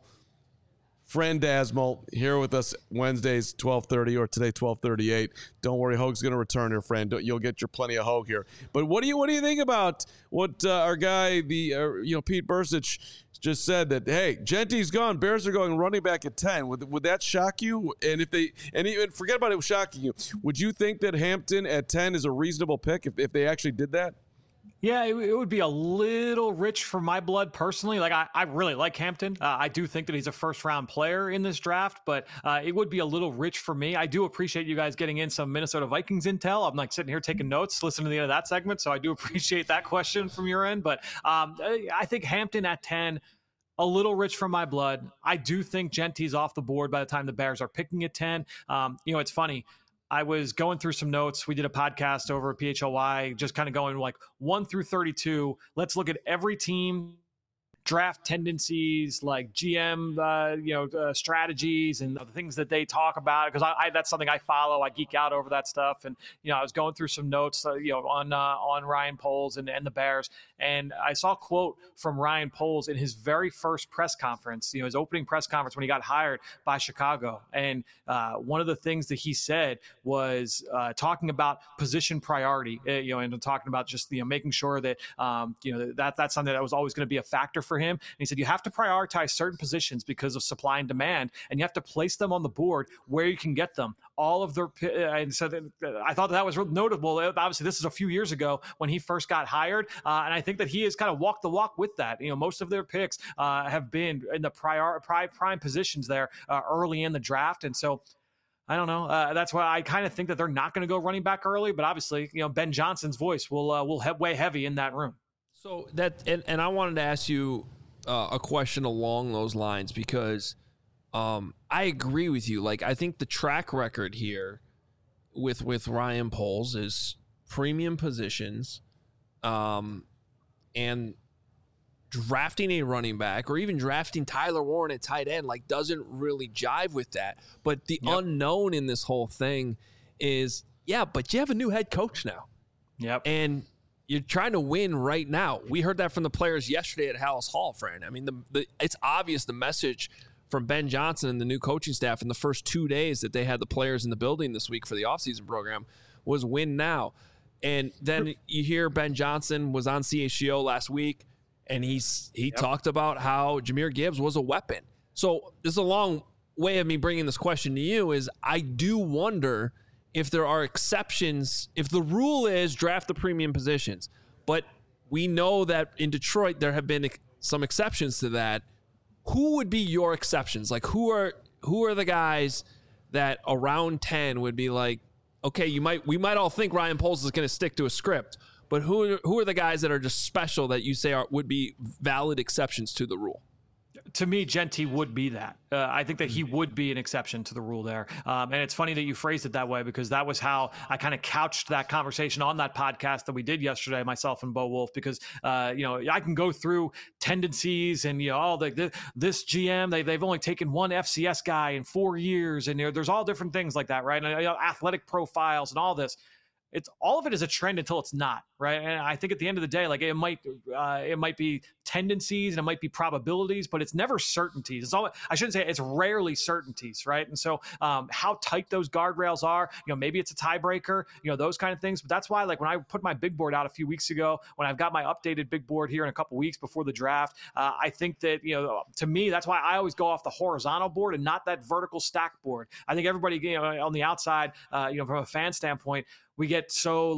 Frandasmal, here with us Wednesdays, 12:30, or today, 12:38. Don't worry, Hoag's going to return here, Fran. You'll get your plenty of Hoag here. But what do you think about what our guy, Pete Bursich, just said that, hey, Genty's gone. Bears are going running back at 10. Would that shock you? And even forget about it shocking you. Would you think that Hampton at 10 is a reasonable pick if they actually did that? Yeah, it would be a little rich for my blood personally. Like I really like Hampton. I do think that he's a first-round player in this draft, but it would be a little rich for me. I do appreciate you guys getting in some Minnesota Vikings intel. I'm like sitting here taking notes, listening to the end of that segment, so I do appreciate that question from your end. But I think Hampton at 10, a little rich for my blood. I do think Genty's off the board by the time the Bears are picking at 10. It's funny. I was going through some notes. We did a podcast over at PHLY, just kind of going like 1 through 32. Let's look at every team, draft tendencies, like GM, strategies and the things that they talk about. Because I that's something I follow. I geek out over that stuff. And, I was going through some notes, on Ryan Poles and the Bears. And I saw a quote from Ryan Poles in his very first press conference, his opening press conference when he got hired by Chicago. And one of the things that he said was talking about position priority, and talking about just, making sure that, that's something that was always going to be a factor for him. And he said, you have to prioritize certain positions because of supply and demand, and you have to place them on the board where you can get them. All of their, and so I thought that was real notable. Obviously, this is a few years ago when he first got hired, and I think that he has kind of walked the walk with that. Most of their picks have been in the prime positions there early in the draft, and so I don't know. That's why I kind of think that they're not going to go running back early. But obviously, Ben Johnson's voice will weigh heavy in that room. So that, and I wanted to ask you a question along those lines because I agree with you. Like, I think the track record here with Ryan Poles is premium positions, and drafting a running back or even drafting Tyler Warren at tight end doesn't really jive with that. But the unknown in this whole thing is, but you have a new head coach now. Yep. And you're trying to win right now. We heard that from the players yesterday at Hallis Hall, Fran. I mean, it's obvious the message from Ben Johnson and the new coaching staff in the first 2 days that they had the players in the building this week for the offseason program was win now. And then you hear Ben Johnson was on CHGO last week, and he talked about how Jahmyr Gibbs was a weapon. So this is a long way of me bringing this question to you is I do wonder if there are exceptions, if the rule is draft the premium positions, but we know that in Detroit there have been some exceptions to that. Who would be your exceptions? Like who are the guys that around 10 would be like, okay, we might all think Ryan Poles is going to stick to a script, but who are the guys that are just special that you say would be valid exceptions to the rule? To me, Genty would be that. I think that he would be an exception to the rule there. And it's funny that you phrased it that way, because that was how I kind of couched that conversation on that podcast that we did yesterday, myself and Bo Wolf, because, I can go through tendencies and, this GM, they've only taken one FCS guy in 4 years. And there's all different things like that, right? And athletic profiles and all this. It's all of it is a trend until it's not, right? And I think at the end of the day, like it might be tendencies and it might be probabilities, but it's never certainties. I shouldn't say it's rarely certainties, right? And so how tight those guardrails are, maybe it's a tiebreaker, those kind of things. But that's why, like when I put my big board out a few weeks ago, when I've got my updated big board here in a couple weeks before the draft, I think that to me that's why I always go off the horizontal board and not that vertical stack board. I think everybody on the outside, from a fan standpoint, we get so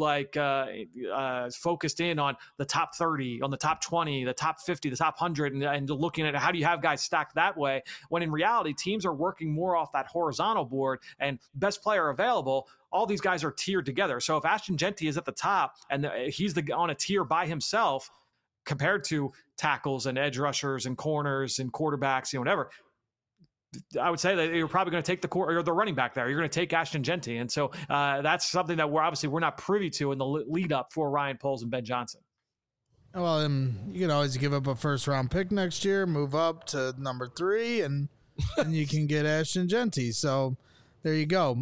focused in on the top 30, on the top 20, the top 50, the top 100, and looking at how do you have guys stacked that way, when in reality, teams are working more off that horizontal board and best player available. All these guys are tiered together. So if Ashton Genty is at the top and he's on a tier by himself compared to tackles and edge rushers and corners and quarterbacks, whatever, I would say that you're probably going to take the running back there. You're going to take Ashton Genty. And so that's something that we're not privy to in the lead up for Ryan Poles and Ben Johnson. Well, you can always give up a first-round pick next year, move up to number 3, and you can get Ashton Genty. So there you go.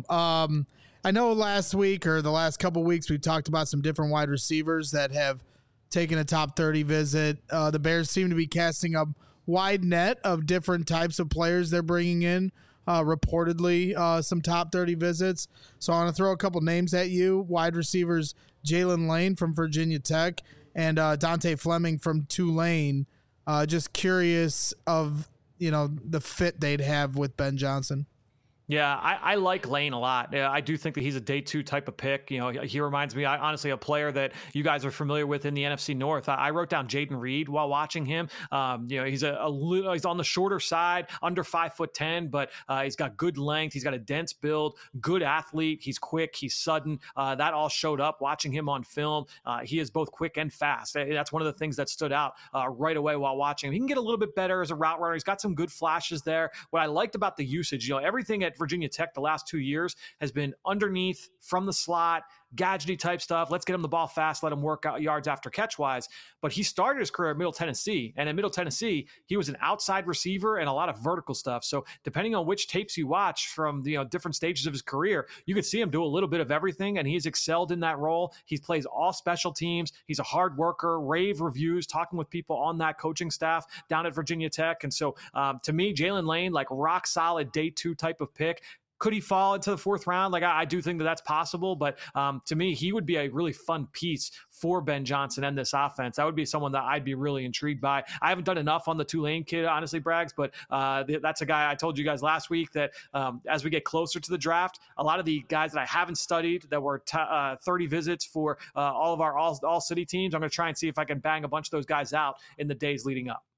I know last week or the last couple weeks we talked about some different wide receivers that have taken a top 30 visit. The Bears seem to be casting a wide net of different types of players they're bringing in. Reportedly, some top 30 visits. So I want to throw a couple names at you. Wide receivers Jalen Lane from Virginia Tech and Dante Fleming from Tulane. Just curious of the fit they'd have with Ben Johnson. Yeah, I like Lane a lot. I do think that he's a day 2 type of pick. He reminds me, honestly, a player that you guys are familiar with in the NFC North. I wrote down Jaden Reed while watching him. He's he's on the shorter side, under 5'10", but he's got good length. He's got a dense build, good athlete. He's quick. He's sudden. That all showed up watching him on film. He is both quick and fast. That's one of the things that stood out right away while watching him. He can get a little bit better as a route runner. He's got some good flashes there. What I liked about the usage, everything at Virginia Tech the last 2 years has been underneath, from the slot, gadgety type stuff. Let's get him the ball fast, let him work out yards after catch wise. But he started his career at Middle Tennessee, and at Middle Tennessee, he was an outside receiver and a lot of vertical stuff. So depending on which tapes you watch from different stages of his career, you could see him do a little bit of everything, and he's excelled in that role. He plays all special teams. He's a hard worker. Rave reviews, talking with people on that coaching staff down at Virginia Tech. And so to me, Jalen Lane, like rock solid day 2 type of pick. Could he fall into the 4th round? Like I do think that that's possible, but to me, he would be a really fun piece for Ben Johnson and this offense. That would be someone that I'd be really intrigued by. I haven't done enough on the Tulane kid, honestly, Braggs, but that's a guy I told you guys last week that as we get closer to the draft, a lot of the guys that I haven't studied that were 30 visits for all of our all-city teams, I'm going to try and see if I can bang a bunch of those guys out in the days leading up.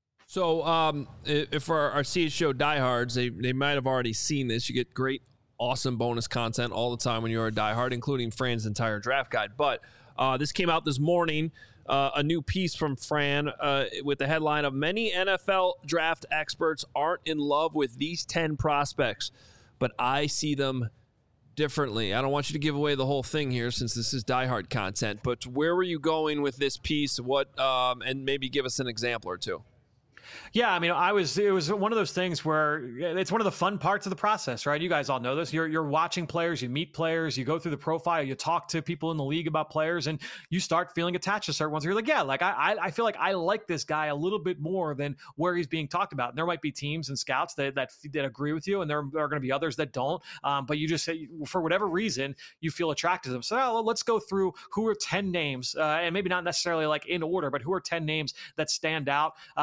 So if our CHGO diehards, they might have already seen this. You get great, awesome bonus content all the time when you're a diehard, including Fran's entire draft guide. But this came out this morning, a new piece from Fran with the headline of "Many NFL draft experts aren't in love with these 10 prospects, but I see them differently." I don't want you to give away the whole thing here since this is diehard content, but where were you going with this piece? What and maybe give us an example or two. Yeah, I mean, it was one of those things where it's one of the fun parts of the process, right? You guys all know this. You're watching players, you meet players, you go through the profile, you talk to people in the league about players, and you start feeling attached to certain ones. You're like, yeah, like I feel like I like this guy a little bit more than where he's being talked about. And there might be teams and scouts that agree with you, and there are going to be others that don't. But you just say, for whatever reason, you feel attracted to them. So let's go through who are 10 names, and maybe not necessarily like in order, but who are 10 names that stand out. For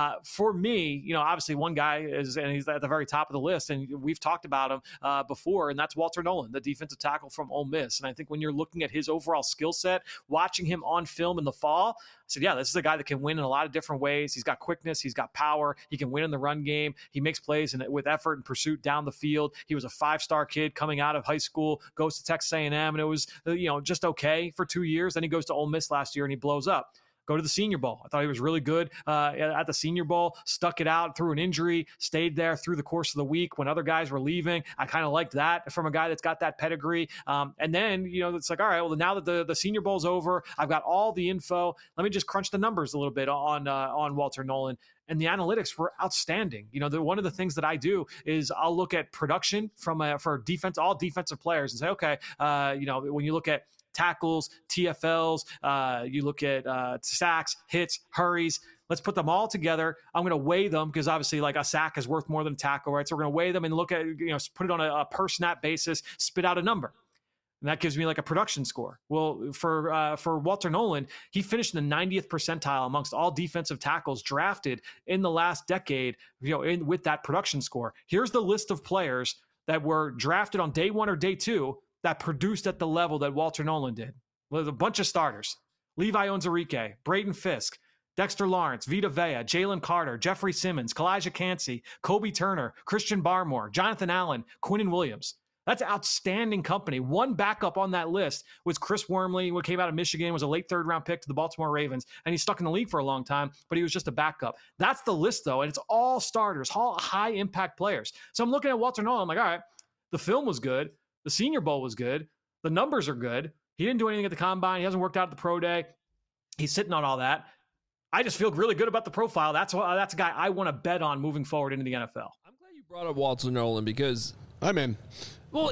for me, obviously one guy is, and he's at the very top of the list, and we've talked about him before, and that's Walter Nolan, the defensive tackle from Ole Miss. And I think when you're looking at his overall skill set, watching him on film in the fall, I said, yeah, this is a guy that can win in a lot of different ways. He's got quickness. He's got power. He can win in the run game. He makes plays with effort and pursuit down the field. He was a 5-star kid coming out of high school, goes to Texas A&M, and it was, just okay for 2 years. Then he goes to Ole Miss last year and he blows up. Go to the Senior Bowl. I thought he was really good at the Senior Bowl, stuck it out through an injury, stayed there through the course of the week when other guys were leaving. I kind of liked that from a guy that's got that pedigree. And then, it's like, all right, well, now that the Senior Bowl's over, I've got all the info. Let me just crunch the numbers a little bit on Walter Nolan. And the analytics were outstanding. One of the things that I do is I'll look at production for defense, all defensive players, and say, okay, when you look at tackles, TFLs, you look at sacks, hits, hurries. Let's put them all together. I'm going to weigh them because obviously like a sack is worth more than a tackle, right? So we're going to weigh them and look at, put it on a per snap basis, spit out a number. And that gives me like a production score. Well, for Walter Nolan, he finished in the 90th percentile amongst all defensive tackles drafted in the last decade, with that production score. Here's the list of players that were drafted on day 1 or day 2 that produced at the level that Walter Nolan did. Well, there's a bunch of starters. Levi Onwuzurike, Braden Fisk, Dexter Lawrence, Vita Vea, Jalen Carter, Jeffrey Simmons, Kalijah Kancey, Kobe Turner, Christian Barmore, Jonathan Allen, Quinnen Williams. That's outstanding company. One backup on that list was Chris Wormley, who came out of Michigan, was a late 3rd-round pick to the Baltimore Ravens, and he's stuck in the league for a long time, but he was just a backup. That's the list, though, and it's all starters, all high-impact players. So I'm looking at Walter Nolan, I'm like, all right, the film was good. The Senior Bowl was good. The numbers are good. He didn't do anything at the combine. He hasn't worked out at the pro day. He's sitting on all that. I just feel really good about the profile. That's a guy I want to bet on moving forward into the NFL. I'm glad you brought up Walter Nolan because I'm in. Well,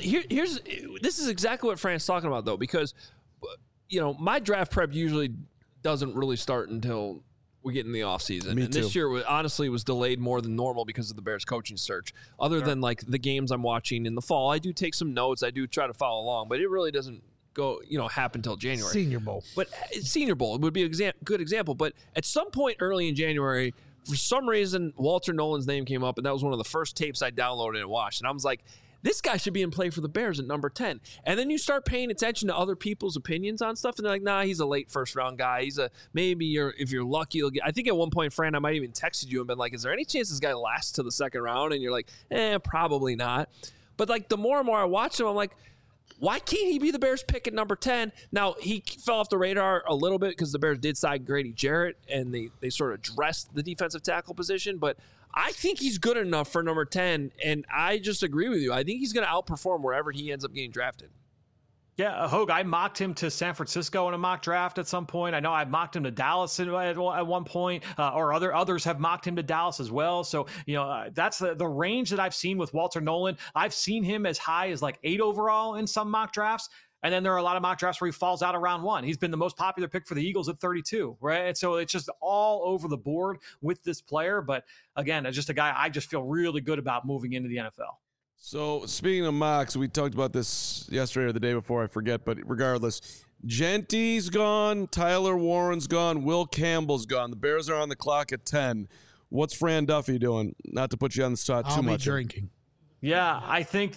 this is exactly what Frank's talking about though, because my draft prep usually doesn't really start until we get in the offseason. And this year, honestly, was delayed more than normal because of the Bears coaching search. Other than like the games I'm watching in the fall, I do take some notes. I do try to follow along, but it really doesn't go, happen till January. Senior Bowl. But Senior Bowl would be a good example. But at some point early in January, for some reason, Walter Nolan's name came up, and that was one of the first tapes I downloaded and watched. And I was like, this guy should be in play for the Bears at number 10. And then you start paying attention to other people's opinions on stuff, and they're like, nah, he's a late first-round guy. If you're lucky, you'll get. I think at one point, Fran, I might even texted you and been like, is there any chance this guy lasts to the 2nd round? And you're like, probably not. But like the more and more I watch him, I'm like, why can't he be the Bears pick at number 10? Now, he fell off the radar a little bit because the Bears did sign Grady Jarrett, and they sort of dressed the defensive tackle position, but I think he's good enough for number 10, and I just agree with you. I think he's going to outperform wherever he ends up getting drafted. Yeah, Hogue, I mocked him to San Francisco in a mock draft at some point. I know I mocked him to Dallas at one point, or others have mocked him to Dallas as well. So, that's the range that I've seen with Walter Nolan. I've seen him as high as like 8 overall in some mock drafts. And then there are a lot of mock drafts where he falls out of round 1. He's been the most popular pick for the Eagles at 32, right? And so it's just all over the board with this player. But again, it's just a guy I just feel really good about moving into the NFL. So speaking of mocks, we talked about this yesterday or the day before, I forget. But regardless, Genty's gone, Tyler Warren's gone, Will Campbell's gone. The Bears are on the clock at 10. What's Fran Duffy doing? Not to put you on the spot too much. I'll be drinking. Yeah, I think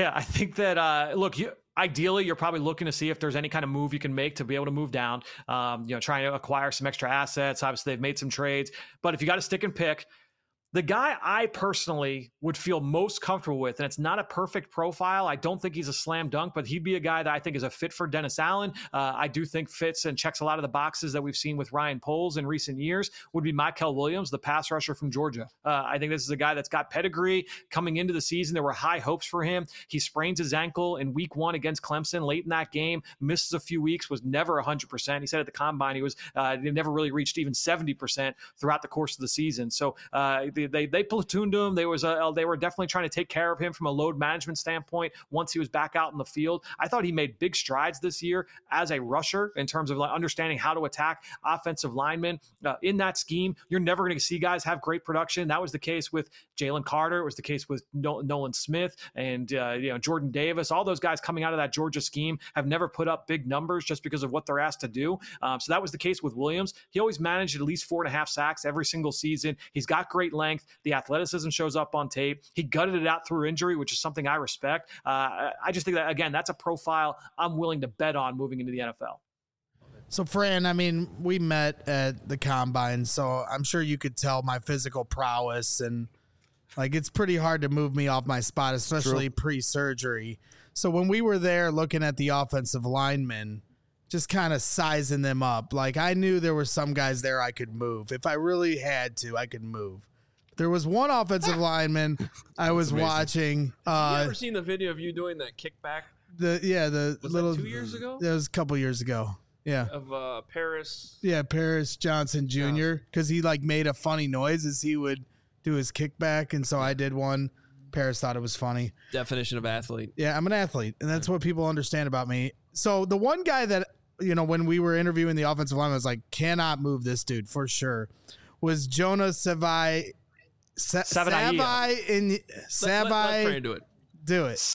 that. Look, ideally, you're probably looking to see if there's any kind of move you can make to be able to move down, trying to acquire some extra assets. Obviously, they've made some trades. But if you got to stick and pick, the guy I personally would feel most comfortable with, and it's not a perfect profile. I don't think he's a slam dunk, but he'd be a guy that I think is a fit for Dennis Allen. I do think fits and checks a lot of the boxes that we've seen with Ryan Poles in recent years, would be Mykel Williams, the pass rusher from Georgia. I think this is a guy that's got pedigree. Coming into the season, there were high hopes for him. He sprains his ankle in week 1 against Clemson late in that game, misses a few weeks, was never 100%. He said at the combine he never really reached even 70% throughout the course of the season. So they platooned him. They were definitely trying to take care of him from a load management standpoint once he was back out in the field. I thought he made big strides this year as a rusher in terms of understanding how to attack offensive linemen. In that scheme, you're never going to see guys have great production. That was the case with Jalen Carter. It was the case with Nolan Smith and Jordan Davis. All those guys coming out of that Georgia scheme have never put up big numbers just because of what they're asked to do. So that was the case with Williams. He always managed at least 4.5 sacks every single season. He's got great length. The athleticism shows up on tape. He gutted it out through injury, which is something I respect. I just think that, again, that's a profile I'm willing to bet on moving into the NFL. So, Fran, I mean, we met at the Combine, so I'm sure you could tell my physical prowess, and it's pretty hard to move me off my spot, especially pre-surgery. So when we were there looking at the offensive linemen, just kind of sizing them up, I knew there were some guys there I could move. If I really had to, I could move. There was one offensive lineman I was watching. Have you ever seen the video of you doing that kickback? Was that 2 years ago? That was a couple years ago. Yeah. Of Paris. Yeah, Paris Johnson Jr. Because he made a funny noise as he would do his kickback, and so I did one. Paris thought it was funny. Definition of athlete. Yeah, I'm an athlete, and that's what people understand about me. So the one guy that, when we were interviewing the offensive line, I was like, cannot move this dude for sure, was Jonah Savai. Let Fran do it. Do it.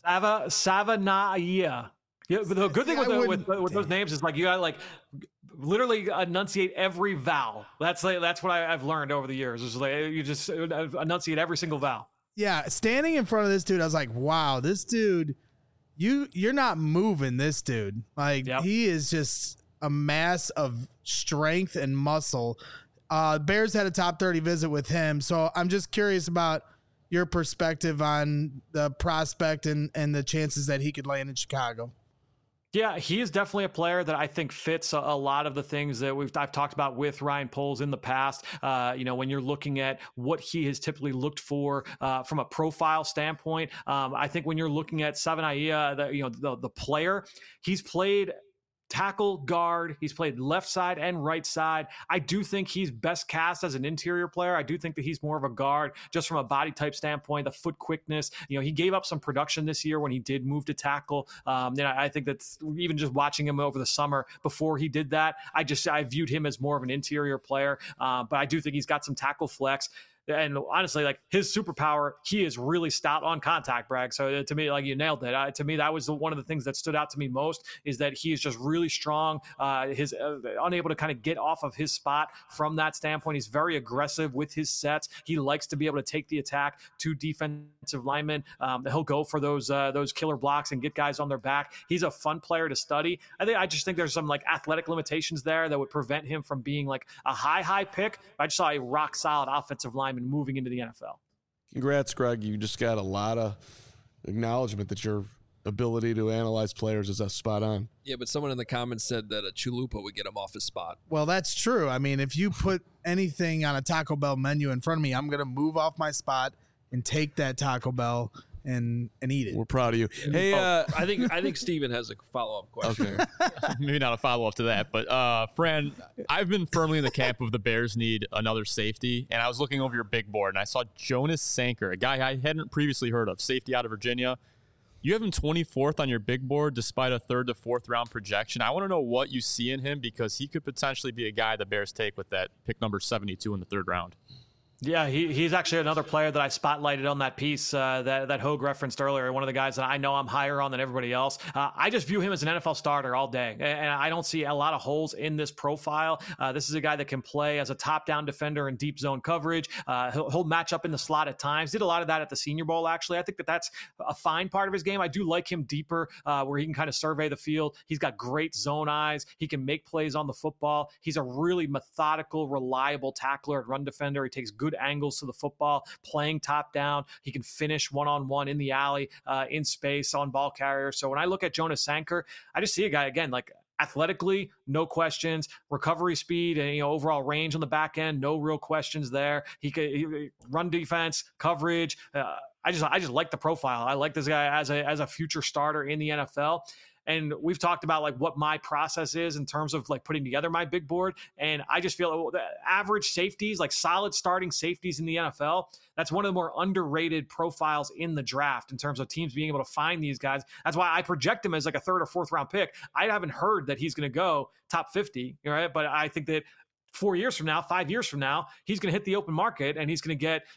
Savanaia. Yeah, but the good thing with those names is you gotta literally enunciate every vowel. That's what I've learned over the years. Is you just enunciate every single vowel. Yeah, standing in front of this dude, I was like, wow, this dude, you're not moving this dude. He is just a mass of strength and muscle. Bears had a top 30 visit with him, so I'm just curious about your perspective on the prospect and the chances that he could land in Chicago. Yeah, he is definitely a player that I think fits a lot of the things that I've talked about with Ryan Poles in the past. When you're looking at what he has typically looked for from a profile standpoint, I think when you're looking at Savanaia, the player, he's played tackle, guard. He's played left side and right side. I do think he's best cast as an interior player. I do think that he's more of a guard just from a body type standpoint, the foot quickness. He gave up some production this year when he did move to tackle. I think that's even just watching him over the summer before he did that, I viewed him as more of an interior player. But I do think he's got some tackle flex. And honestly, his superpower, he is really stout on contact, Bragg. So to me, you nailed it. To me, that was one of the things that stood out to me most, is that he is just really strong. His unable to kind of get off of his spot from that standpoint. He's very aggressive with his sets. He likes to be able to take the attack to defensive linemen. He'll go for those killer blocks and get guys on their back. He's a fun player to study. I just think there's some athletic limitations there that would prevent him from being a high pick. I just saw a rock solid offensive lineman moving into the NFL. Congrats, Greg. You just got a lot of acknowledgement that your ability to analyze players is spot on. Yeah, but someone in the comments said that a Chalupa would get him off his spot. Well, that's true. I mean, if you put anything on a Taco Bell menu in front of me, I'm going to move off my spot and take that Taco Bell and eat it. We're proud of you. Hey, I think Steven has a follow-up question. Okay. Maybe not a follow-up to that, but Fran, I've been firmly in the camp of the Bears need another safety, and I was looking over your big board, and I saw Jonas Sanker, a guy I hadn't previously heard of, safety out of Virginia. You have him 24th on your big board despite a 3rd to 4th round projection. I want to know what you see in him, because he could potentially be a guy the Bears take with that pick number 72 in the 3rd round. Yeah, he's actually another player that I spotlighted on that piece that Hogue referenced earlier. One of the guys that I know I'm higher on than everybody else. I just view him as an NFL starter all day, and I don't see a lot of holes in this profile. This is a guy that can play as a top-down defender in deep zone coverage. He'll match up in the slot at times. Did a lot of that at the Senior Bowl, actually. I think that's a fine part of his game. I do like him deeper, where he can kind of survey the field. He's got great zone eyes. He can make plays on the football. He's a really methodical, reliable tackler at run defender. He takes good angles to the football, playing top down. He can finish one-on-one in the alley, in space on ball carriers. So when I look at Jonas Sanker, I just see a guy, again, athletically, no questions. Recovery speed and overall range on the back end, no real questions there. He run defense, coverage. I just like the profile. I like this guy as a future starter in the NFL. And we've talked about like what my process is in terms of like putting together my big board. And I just feel the average safeties, like solid starting safeties in the NFL, that's one of the more underrated profiles in the draft in terms of teams being able to find these guys. That's why I project him as like a 3rd or 4th round pick. I haven't heard that he's going to go top 50, right? But I think that 4 years from now, 5 years from now, he's going to hit the open market and he's going to get,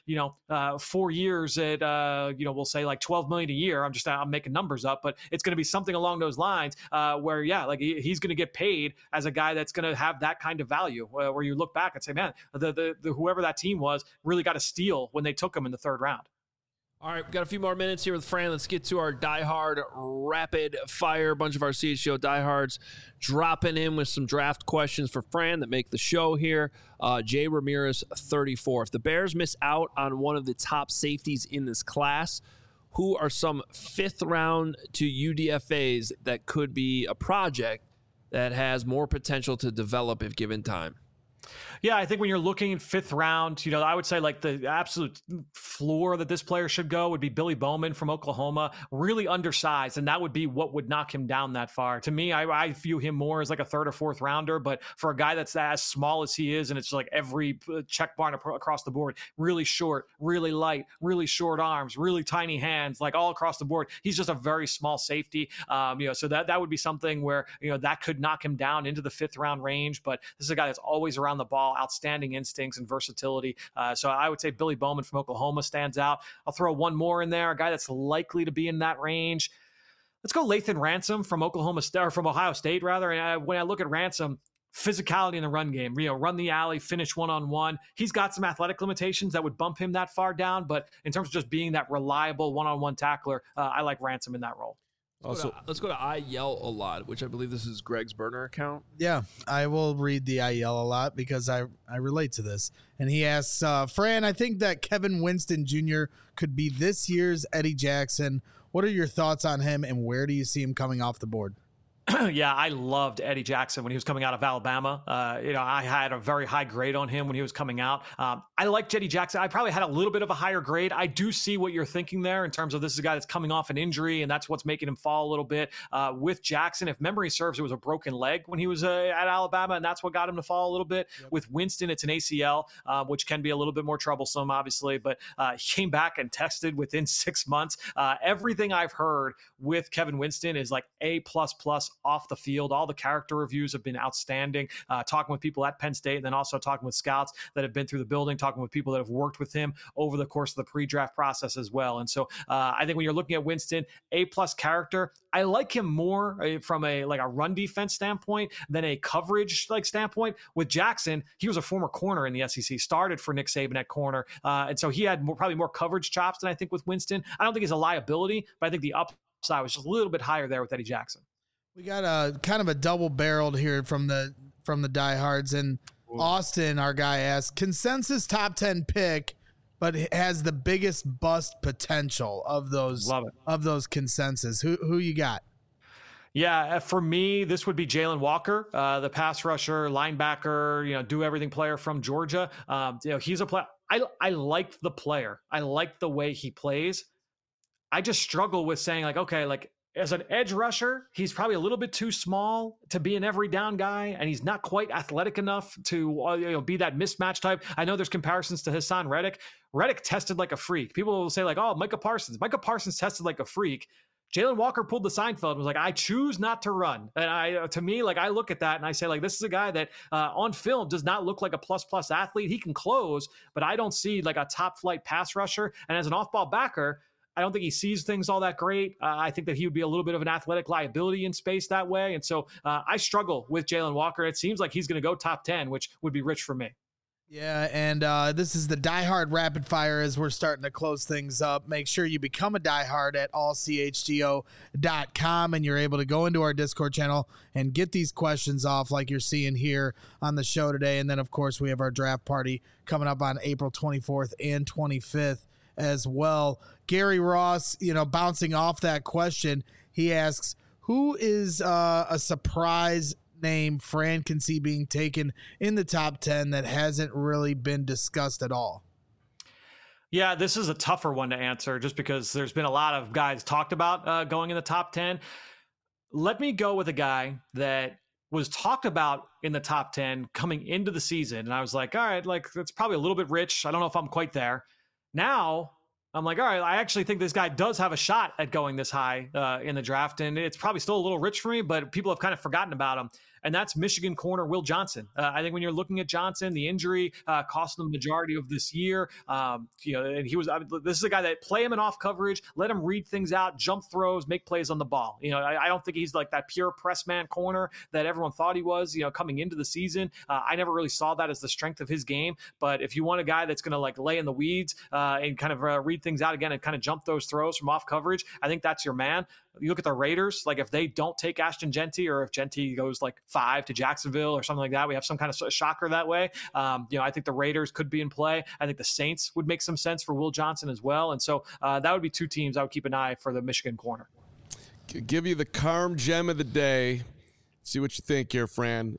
4 years at, we'll say like 12 million a year. I'm making numbers up, but it's going to be something along those lines where, like he's going to get paid as a guy that's going to have that kind of value where you look back and say, man, the whoever that team was really got a steal when they took him in the 3rd round. All right, we've got a few more minutes here with Fran. Let's get to our diehard rapid fire. A bunch of our CHGO diehards dropping in with some draft questions for Fran that make the show here. Jay Ramirez, 34. If the Bears miss out on one of the top safeties in this class, who are some 5th round to UDFAs that could be a project that has more potential to develop if given time? Yeah, I think when you're looking 5th round, I would say like the absolute floor that this player should go would be Billy Bowman from Oklahoma, really undersized. And that would be what would knock him down that far. To me, I view him more as like a 3rd or 4th rounder, but for a guy that's as small as he is, and it's like every check mark across the board, really short, really light, really short arms, really tiny hands, like all across the board. He's just a very small safety. So that would be something where, that could knock him down into the 5th round range. But this is a guy that's always around the ball, outstanding instincts and versatility. So I would say Billy Bowman from Oklahoma stands out. I'll throw one more in there, a guy that's likely to be in that range. Let's go Lathan Ransom from Ohio State, rather. And when I look at Ransom, physicality in the run game, run the alley, finish one-on-one. He's got some athletic limitations that would bump him that far down, but in terms of just being that reliable one-on-one tackler, I like Ransom in that role. Let's go to I Yell a Lot, which I believe this is Greg's burner account. Yeah, I will read the I Yell a Lot because I relate to this. And he asks, Fran, I think that Kevin Winston Jr. could be this year's Eddie Jackson. What are your thoughts on him, and where do you see him coming off the board? Yeah, I loved Eddie Jackson when he was coming out of Alabama. I had a very high grade on him when he was coming out. I like Eddie Jackson. I probably had a little bit of a higher grade. I do see what you're thinking there in terms of this is a guy that's coming off an injury, and that's what's making him fall a little bit. With Jackson, if memory serves, it was a broken leg when he was at Alabama, and that's what got him to fall a little bit. Yep. With Winston, it's an ACL, which can be a little bit more troublesome, obviously, but he came back and tested within 6 months. Everything I've heard with Kevin Winston is like A++ off the field. All the character reviews have been outstanding. Talking with people at Penn State, and then also talking with scouts that have been through the building, talking with people that have worked with him over the course of the pre-draft process as well. And so I think when you're looking at Winston, A+ character, I like him more from a run defense standpoint than a coverage standpoint. With Jackson, he was a former corner in the SEC, started for Nick Saban at corner. And so he had probably more coverage chops than I think with Winston. I don't think he's a liability, but I think the upside was just a little bit higher there with Eddie Jackson. We got a kind of a double-barreled here from the diehards, and Austin, our guy, asked, consensus top 10 pick, but has the biggest bust potential of those consensus. Who you got? Yeah, for me, this would be Jalen Walker, the pass rusher, linebacker, do everything player from Georgia. He's a player. I like the player. I like the way he plays. I just struggle with saying as an edge rusher, he's probably a little bit too small to be an every down guy, and he's not quite athletic enough to be that mismatch type. I know there's comparisons to Hassan Reddick. Reddick tested like a freak. People will say Micah Parsons. Micah Parsons tested like a freak. Jalen Walker pulled the Seinfeld and was like, I choose not to run. And I look at that and I say, this is a guy that on film does not look like a plus athlete. He can close, but I don't see a top flight pass rusher. And as an off-ball backer, I don't think he sees things all that great. I think that he would be a little bit of an athletic liability in space that way. And so I struggle with Jalen Walker. It seems like he's going to go top 10, which would be rich for me. Yeah, and this is the diehard rapid fire as we're starting to close things up. Make sure you become a diehard at allchgo.com, and you're able to go into our Discord channel and get these questions off like you're seeing here on the show today. And then, of course, we have our draft party coming up on April 24th and 25th. As well. Gary Ross, bouncing off that question, he asks, who is a surprise name Fran can see being taken in the top 10 that hasn't really been discussed at all? Yeah, this is a tougher one to answer just because there's been a lot of guys talked about going in the top 10. let me go with a guy that was talked about in the top 10 coming into the season. And I was like, all right, like that's probably a little bit rich. I don't know if I'm quite there. Now I'm like, all right, I actually think this guy does have a shot at going this high in the draft. And it's probably still a little rich for me, but people have kind of forgotten about him. And that's Michigan corner Will Johnson. I think when you're looking at Johnson, the injury cost him the majority of this year. And he was. This is a guy that play him in off coverage, let him read things out, jump throws, make plays on the ball. I don't think he's like that pure press man corner that everyone thought he was. Coming into the season, I never really saw that as the strength of his game. But if you want a guy that's going to like lay in the weeds and kind of read things out again and kind of jump those throws from off coverage, I think that's your man. You look at the Raiders, like if they don't take Ashton Jeanty, or if Jeanty goes like 5 to Jacksonville or something like that, we have some kind of shocker that way. I think the Raiders could be in play. I think the Saints would make some sense for Will Johnson as well. And so that would be 2 teams I would keep an eye for the Michigan corner. Give you the Carm gem of the day. See what you think here, Fran.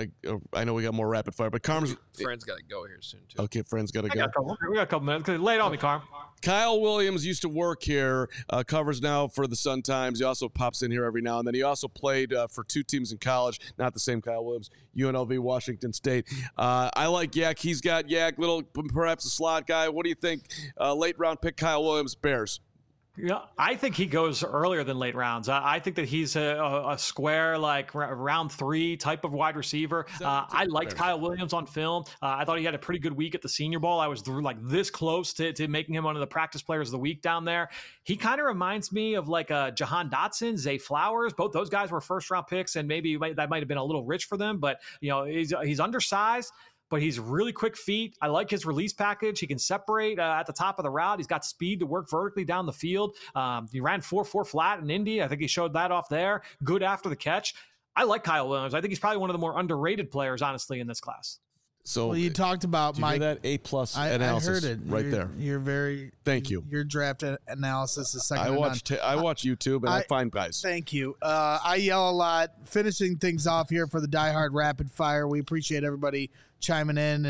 I know we got more rapid fire, but Carm's... Fran's got to go here soon, too. Okay, Fran's got to go. We got a couple minutes. Lay it on me, Carm. Kyle Williams used to work here, covers now for the Sun-Times. He also pops in here every now and then. He also played for 2 teams in college, not the same Kyle Williams, UNLV, Washington State. I like Yak. He's got Yak, little perhaps a slot guy. What do you think? Late round pick Kyle Williams, Bears. Yeah, I think he goes earlier than late rounds. I think that he's a square, like round 3 type of wide receiver. I liked Kyle Williams on film. I thought he had a pretty good week at the Senior Bowl. I was like this close to making him one of the practice players of the week down there. He kind of reminds me of like Jahan Dotson, Zay Flowers. Both those guys were first round picks, and maybe that might have been a little rich for them. But he's undersized, but he's really quick feet. I like his release package. He can separate at the top of the route. He's got speed to work vertically down the field. He ran 4.4 flat in Indy. I think he showed that off there. Good after the catch. I like Kyle Williams. I think he's probably one of the more underrated players, honestly, in this class. So you talked about Mike. That A+ analysis. I heard it right there. You're very. Thank you. Your draft analysis is second. I watch YouTube and I find guys. Thank you. I yell a lot. Finishing things off here for the Die Hard Rapid Fire. We appreciate everybody chiming in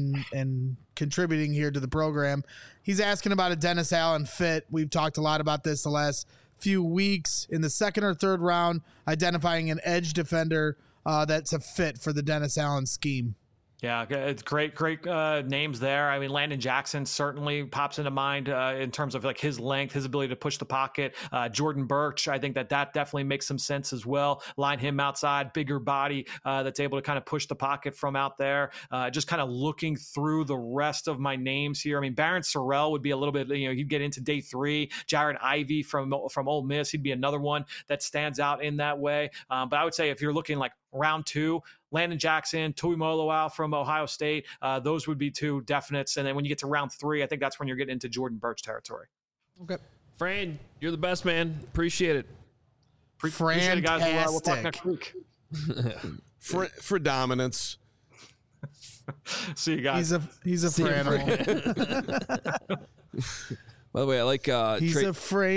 and contributing here to the program. He's asking about a Dennis Allen fit. We've talked a lot about this the last few weeks in the 2nd or 3rd round, identifying an edge defender that's a fit for the Dennis Allen scheme. Yeah, it's great names there. I mean, Landon Jackson certainly pops into mind in terms of like his length, his ability to push the pocket. Jordan Birch, I think that definitely makes some sense as well. Line him outside, bigger body that's able to kind of push the pocket from out there. Just kind of looking through the rest of my names here. I mean, Barron Sorrell would be a little bit, he'd get into day 3. Jared Ivey from Ole Miss, he'd be another one that stands out in that way. But I would say if you're looking like round 2, Landon Jackson, Tui Moloau from Ohio State, those would be 2 definites. And then when you get to round 3, I think that's when you're getting into Jordan Birch territory. Okay. Fran, you're the best, man. Appreciate it. Appreciate it, guys. We'll talk next week. For dominance. See you guys. He's a Franimal. By the way, I like he's a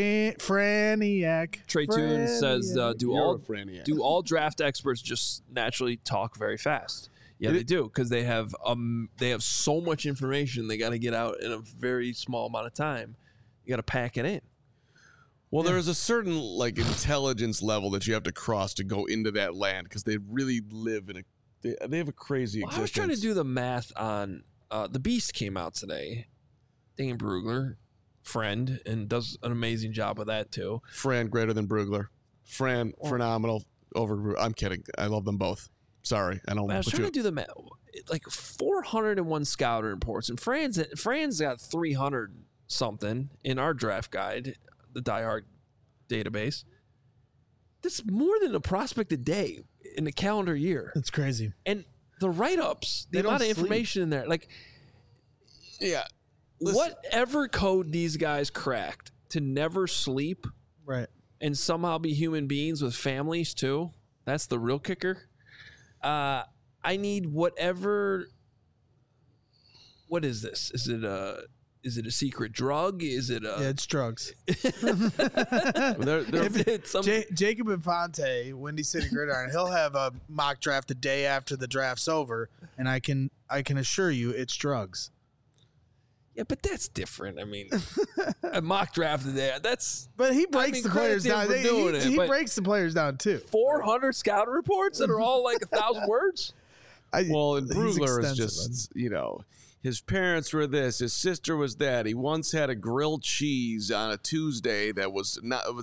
Franiac. Trey Toon says, do all draft experts just naturally talk very fast? Yeah, they do, because they have so much information they got to get out in a very small amount of time. You got to pack it in. Well, there's a certain like intelligence level that you have to cross to go into that land, because they really live in they have a crazy existence. I was trying to do the math on the Beast came out today. Dane Brugler. Friend, and does an amazing job of that too. Fran greater than Brugler. Fran phenomenal over. I'm kidding. I love them both. Sorry, I don't. I was trying to do the math. Like 401 scouter reports, and Fran's got 300 something in our draft guide, the Die Hard database. That's more than a prospect a day in a calendar year. That's crazy. And the write-ups, the amount of information in there, like, yeah. Listen. Whatever code these guys cracked to never sleep, right, and somehow be human beings with families too. That's the real kicker. I need whatever. What is this? Is it a secret drug? Is it a? Yeah, it's drugs. Jacob Infante, Windy City Gridiron, he'll have a mock draft the day after the draft's over, and I can assure you it's drugs. Yeah, but that's different. I mean, a mock draft today. That's. But he breaks the players down. He breaks the players down too. 400 scouting reports that are all like 1,000 words. Well, and Brugler is just, his parents were this, his sister was that. He once had a grilled cheese on a Tuesday that was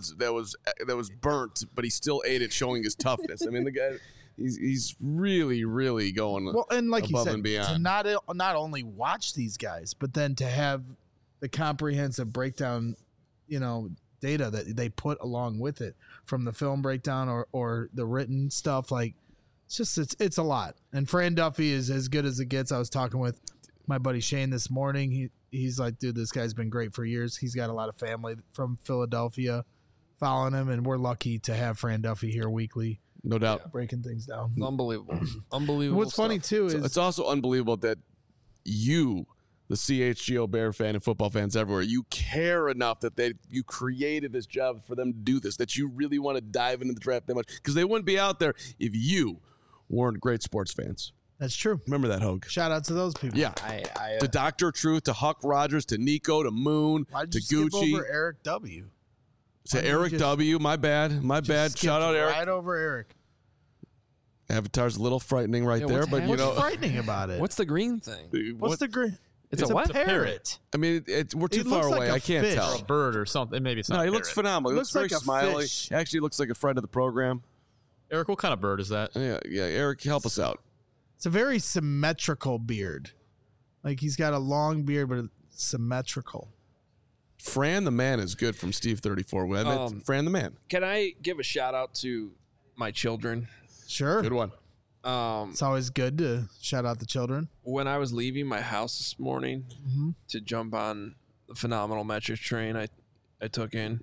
burnt, but he still ate it, showing his toughness. I mean, the guy, he's really, really going and like above you said, and beyond. To not only watch these guys, but then to have the comprehensive breakdown, data that they put along with it from the film breakdown or the written stuff, like. It's a lot. And Fran Duffy is as good as it gets. I was talking with my buddy Shane this morning. He's like, dude, this guy's been great for years. He's got a lot of family from Philadelphia following him, and we're lucky to have Fran Duffy here weekly. No doubt. Breaking things down. Unbelievable. Unbelievable. What's funny, too, is... It's also unbelievable that you, the CHGO Bear fan and football fans everywhere, you care enough that you created this job for them to do this, that you really want to dive into the draft that much, because they wouldn't be out there if you weren't great sports fans. That's true. Remember that, Hogue. Shout out to those people. Yeah. To Dr. Truth, to Huck Rogers, to Nico, to Moon, Why'd to you Gucci. skip over Eric W? To Eric W. My bad. Shout out Eric. Right over Eric. Avatar's a little frightening right there, but What's frightening about it? What's the green thing? What's the green? It's a what? Parrot. I mean, we're too far away. I can't fish. tell. Or a bird or something. Maybe it's not. No, he a looks parrot. phenomenal. He looks very like a smiley. fish. He actually looks like a friend of the program. Eric, what kind of bird is that? Yeah, Eric, help us out. It's a very symmetrical beard. Like he's got a long beard, but it's symmetrical. Fran the Man is good from Steve 34. Fran the Man. Can I give a shout out to my children? Sure. Good one. It's always good to shout out the children. When I was leaving my house this morning to jump on the phenomenal metric train I took in,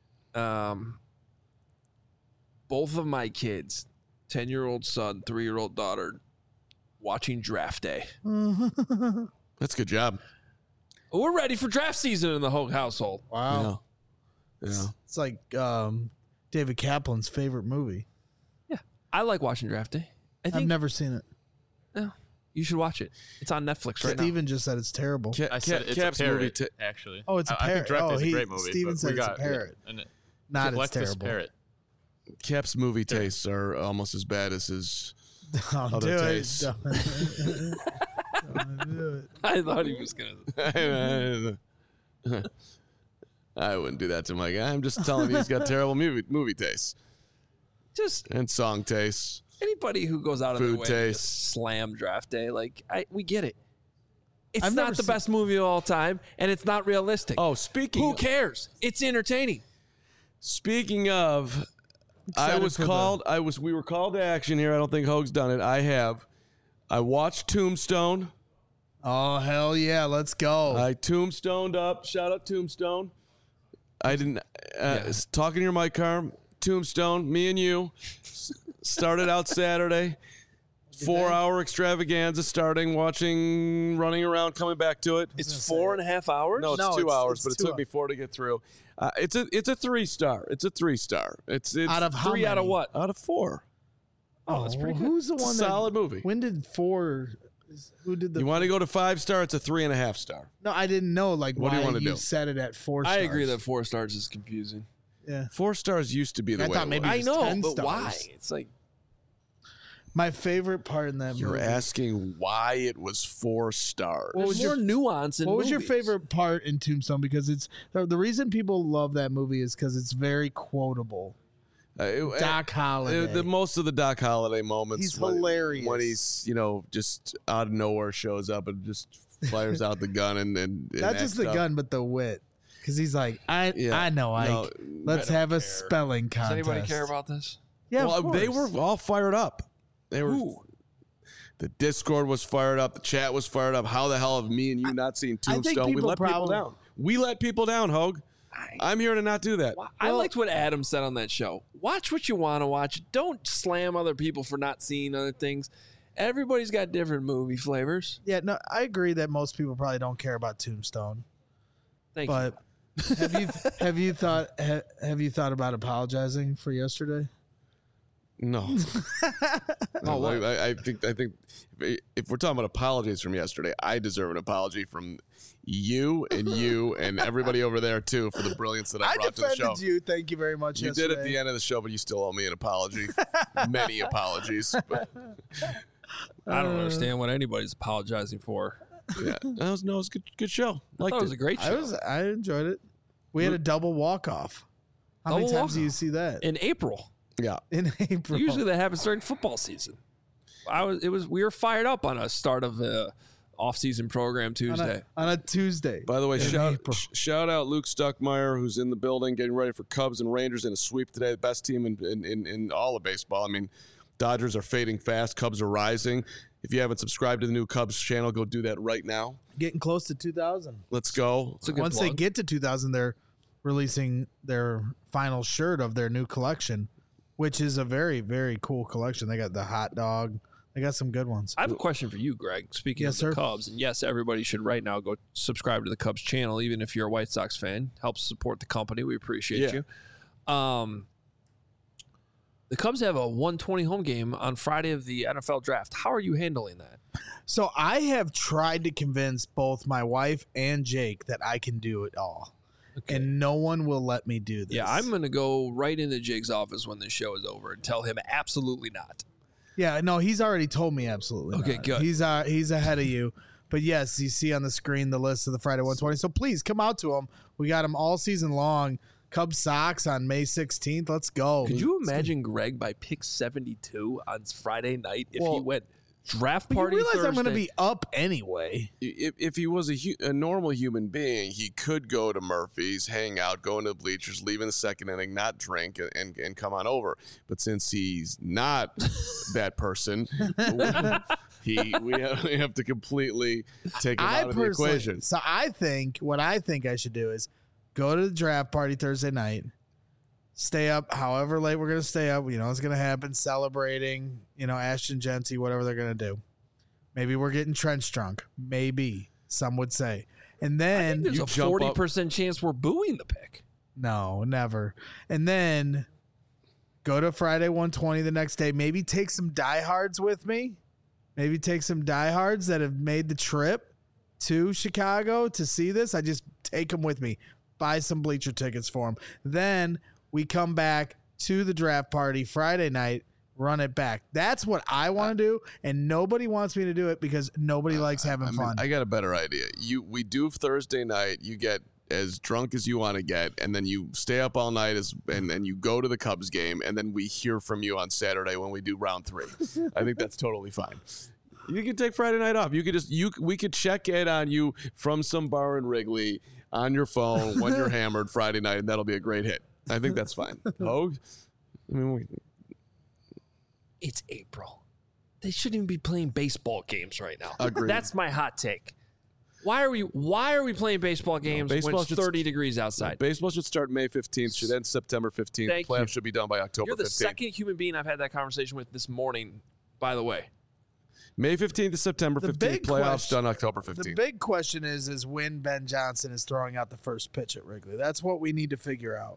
both of my kids, 10-year-old son, 3-year-old daughter, watching draft day. That's a good job. We're ready for draft season in the Hogue household. Wow. Yeah. It's like David Kaplan's favorite movie. Yeah. I like watching draft day. I've never seen it. No, you should watch it. It's on Netflix right now. Steven just said it's terrible. I said it's Cap's a parrot, movie actually. Oh, it's a I think parrot. Draft Day is a great movie. Steven but said we it's a got- parrot. and it- Not Galactus it's terrible. Parrot. Cap's movie tastes are almost as bad as his other tastes. Don't do it. I thought he was going to. I wouldn't do that to my guy. I'm just telling you he's got terrible movie tastes Just and song tastes. anybody who goes out of their Food way to taste. just slam draft day, we get it. It's I've never not the seen- best movie of all time, and it's not realistic. Oh, speaking Who cares? It's entertaining. Speaking of, Excited for we were called to action here. I don't think Hogue's done it. I have. I watched Tombstone. Oh, hell yeah. Let's go. I tombstoned up. Shout out Tombstone. I didn't. Talking to your mic, Carm. Tombstone, me and you started out Saturday. 4-hour extravaganza starting, watching, running around, coming back to it. It's 4.5 hours? No, it's No, 2 hours, it's but it 2 took me 4 to get through. It's a 3-star. It's a 3-star. It's Out of how 3 out of many? what? out of 4. Oh, that's pretty good. Who's the It's a one solid that, movie. When did 4? Who did the? You want to go to 5-star? It's a 3.5 star. No, I didn't know. What do why you wanna you do? set it at 4 I stars. agree that 4 stars is confusing. Yeah. 4 stars used to be the I way. thought it maybe was. I was know, 10 but stars. why? It's like My favorite part in that You're movie. asking why it was 4 stars. What was there's more nuance in What was your movies. favorite part in Tombstone? Because it's the reason people love that movie is because it's very quotable. Doc Holliday. The most of the Doc Holliday moments. He's hilarious. when he's just out of nowhere shows up and just fires out the gun and Not just acts the out. gun, but the wit. Because he's like, I know, Ike. No, Let's I don't have a care. spelling Does contest. anybody care about this? Yeah, well, of they course. were all fired up. They were. Who? The Discord was fired up. The chat was fired up. How the hell have me and you not seen I think Tombstone? We people let people probably- down. We let people down, Hogue. I'm here to not do that. I liked what Adam said on that show. Watch what you want to watch. Don't slam other people for not seeing other things. Everybody's got different movie flavors. Yeah, no, I agree that most people probably don't care about Tombstone. Thank But have you thought about apologizing for yesterday? No. No, I think if we're talking about apologies from yesterday, I deserve an apology from you and everybody over there too for the brilliance that I brought to the show. I defended you. Thank you very much. You did at the end of the show, but you still owe me an apology. Many apologies. I don't understand what anybody's apologizing for. Yeah, it was a good show. I thought it was a great show. I enjoyed it. We had a double walk off. How many times do you see that in April? Yeah, in April. Usually that happens during football season. We were fired up on a start of the off-season program Tuesday. On a Tuesday. By the way, shout out Luke Stuckmeyer, who's in the building getting ready for Cubs and Rangers in a sweep today. The best team in all of baseball. I mean, Dodgers are fading fast. Cubs are rising. If you haven't subscribed to the new Cubs channel, go do that right now. Getting close to 2,000. Let's go. Once they get to 2,000, they're releasing their final shirt of their new collection, which is a very, very cool collection. They got the hot dog. They got some good ones. I have a question for you, Greg. Speaking of the Cubs, and yes, everybody should right now go subscribe to the Cubs channel, even if you're a White Sox fan. Helps support the company. We appreciate you. The Cubs have a 1:20 home game on Friday of the NFL draft. How are you handling that? So I have tried to convince both my wife and Jake that I can do it all. Okay. And no one will let me do this. Yeah, I'm going to go right into Jake's office when this show is over and tell him absolutely not. Yeah, no, he's already told me absolutely not. Okay, good. He's ahead of you. But yes, you see on the screen the list of the Friday 120. So please come out to him. We got him all season long. Cubs Sox on May 16th. Let's go. Could you imagine Greg by pick 72 on Friday night if he went draft party Thursday? You realize Thursday? I'm going to be up anyway. If he was a normal human being, he could go to Murphy's, hang out, go into the bleachers, leave in the second inning, not drink, and come on over. But since he's not that person, we have to completely take him out of the equation. So what I think I should do is go to the draft party Thursday night, stay up however late we're going to stay up. You know, it's going to happen, celebrating, Ashton Genty, whatever they're going to do. Maybe we're getting trench drunk. Maybe, some would say. And then there's a 40% chance we're booing the pick. No, never. And then go to Friday 120 the next day. Maybe take some diehards with me. Maybe take some diehards that have made the trip to Chicago to see this. I just take them with me. Buy some bleacher tickets for them. Then we come back to the draft party Friday night, run it back. That's what I want to do, and nobody wants me to do it because nobody likes having fun. I got a better idea. We do Thursday night. You get as drunk as you want to get, and then you stay up all night and then you go to the Cubs game, and then we hear from you on Saturday when we do round 3. I think that's totally fine. You can take Friday night off. You could we could check in on you from some bar in Wrigley on your phone when you're hammered Friday night, and that'll be a great hit. I think that's fine. Hogue? It's April. They shouldn't even be playing baseball games right now. Agreed. That's my hot take. Why are we playing baseball games when it's 30 degrees outside? Baseball should start May 15th, should end September 15th. Playoffs should be done by October 15th. You're the second human being I've had that conversation with this morning, by the way. May 15th to September 15th, playoffs done October 15th. The big question is when Ben Johnson is throwing out the first pitch at Wrigley. That's what we need to figure out.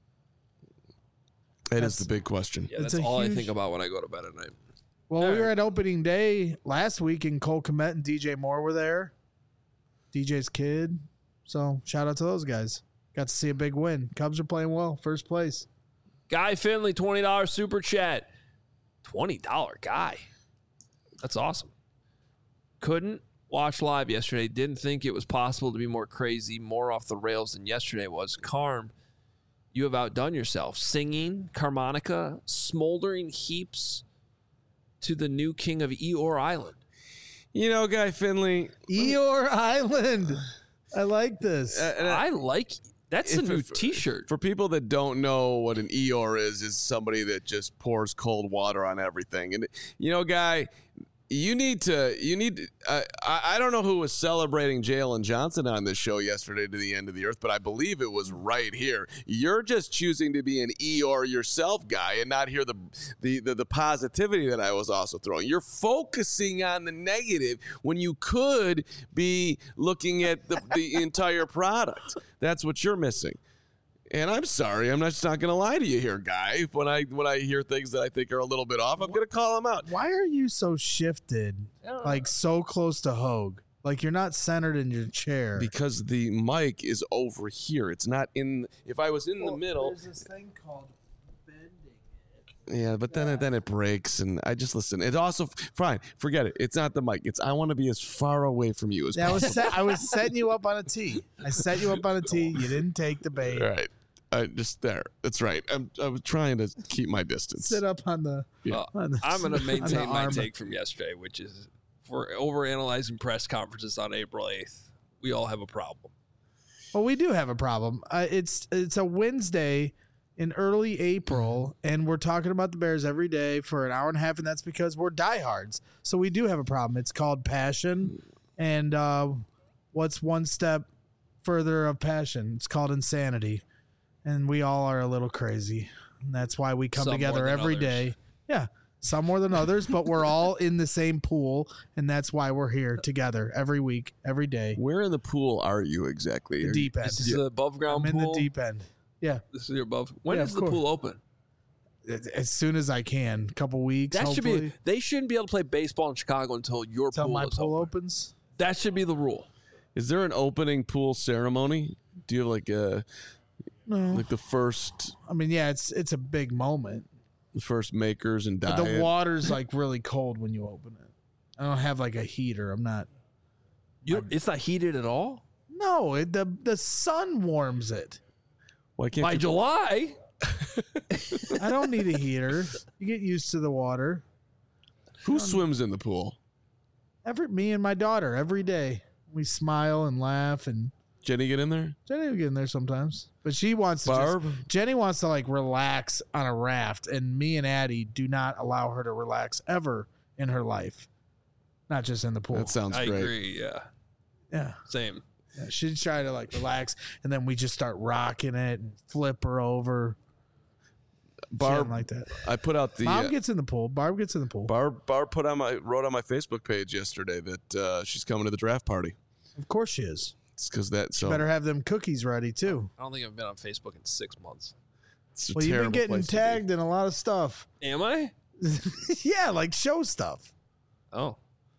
That is the big question. Yeah, that's all I think about when I go to bed at night. Well, we were at opening day last week, and Cole Kmet and DJ Moore were there. DJ's kid. So shout out to those guys. Got to see a big win. Cubs are playing well. First place. Guy Finley, $20 super chat. $20 guy. That's awesome. Couldn't watch live yesterday. Didn't think it was possible to be more crazy, more off the rails than yesterday was. Carm, you have outdone yourself. Singing, harmonica, smoldering heaps to the new king of Eeyore Island. Guy Finley. Eeyore Island. I like this. I like that's a new T-shirt. For people that don't know what an Eeyore is somebody that just pours cold water on everything. And, Guy, you need I don't know who was celebrating Jalen Johnson on this show yesterday to the end of the earth, but I believe it was right here. You're just choosing to be an Eeyore yourself, Guy, and not hear the positivity that I was also throwing. You're focusing on the negative when you could be looking at the entire product. That's what you're missing. And I'm sorry, I'm just not going to lie to you here, Guy. When I hear things that I think are a little bit off, I'm going to call them out. Why are you so shifted, like so close to Hogue? Like you're not centered in your chair. Because the mic is over here. It's not in. If I was in the middle. There's this thing called bending it. Yeah, but then it breaks, and I just listen. It also fine. Forget it. It's not the mic. It's I want to be as far away from you as possible. I was setting you up on a tee. I set you up on a tee. You didn't take the bait. All right. Just there. That's right. I was trying to keep my distance. Sit up on the. Yeah. I'm going to maintain my arm. take from yesterday, which is for overanalyzing press conferences on April 8th. We all have a problem. Well, we do have a problem. It's a Wednesday in early April, and we're talking about the Bears every day for an hour and a half, and that's because we're diehards. So we do have a problem. It's called passion, and what's one step further of passion? It's called insanity, and we all are a little crazy. And that's why we come Some together more than every others. day. Yeah, some more than others, but we're all in the same pool, and that's why we're here together every week, every day. Where in the pool are you exactly? The deep end. This is the above ground I'm in pool. the deep end. Yeah. This is your above. When Yeah, is of the course. pool open? As soon as I can, a couple weeks. That should hopefully, be. They shouldn't be able to play baseball in Chicago until your until pool my is pool open. opens. That should be the rule. Is there an opening pool ceremony? Do you have like No, the first I mean, yeah, it's a big moment, makers and but diet? the water's like really cold when you open it. I don't have like a heater. I'm not. It's not heated at all No, the sun warms it. Why can't by you, July. I don't need a heater. You get used to the water. who swims in the pool? Me and my daughter every day. We smile and laugh, and Jenny get in there? Jenny will get in there sometimes, but she wants to. Barb? Jenny wants to like relax on a raft, and me and Addie do not allow her to relax ever in her life, not just in the pool. That sounds I great. agree. Yeah, Yeah. same. Yeah, she'd try to like relax, and then we just start rocking it and flip her over. She Barb, doesn't like that. I put out the Mom gets in the pool. Barb gets in the pool. Barb wrote on my Facebook page yesterday that she's coming to the draft party. Of course she is. It's because that She better have them cookies ready too. I don't think I've been on Facebook in 6 months. It's a Well, you've been terrible getting place to be. tagged in a lot of stuff. Am I? Yeah, like show stuff. Oh.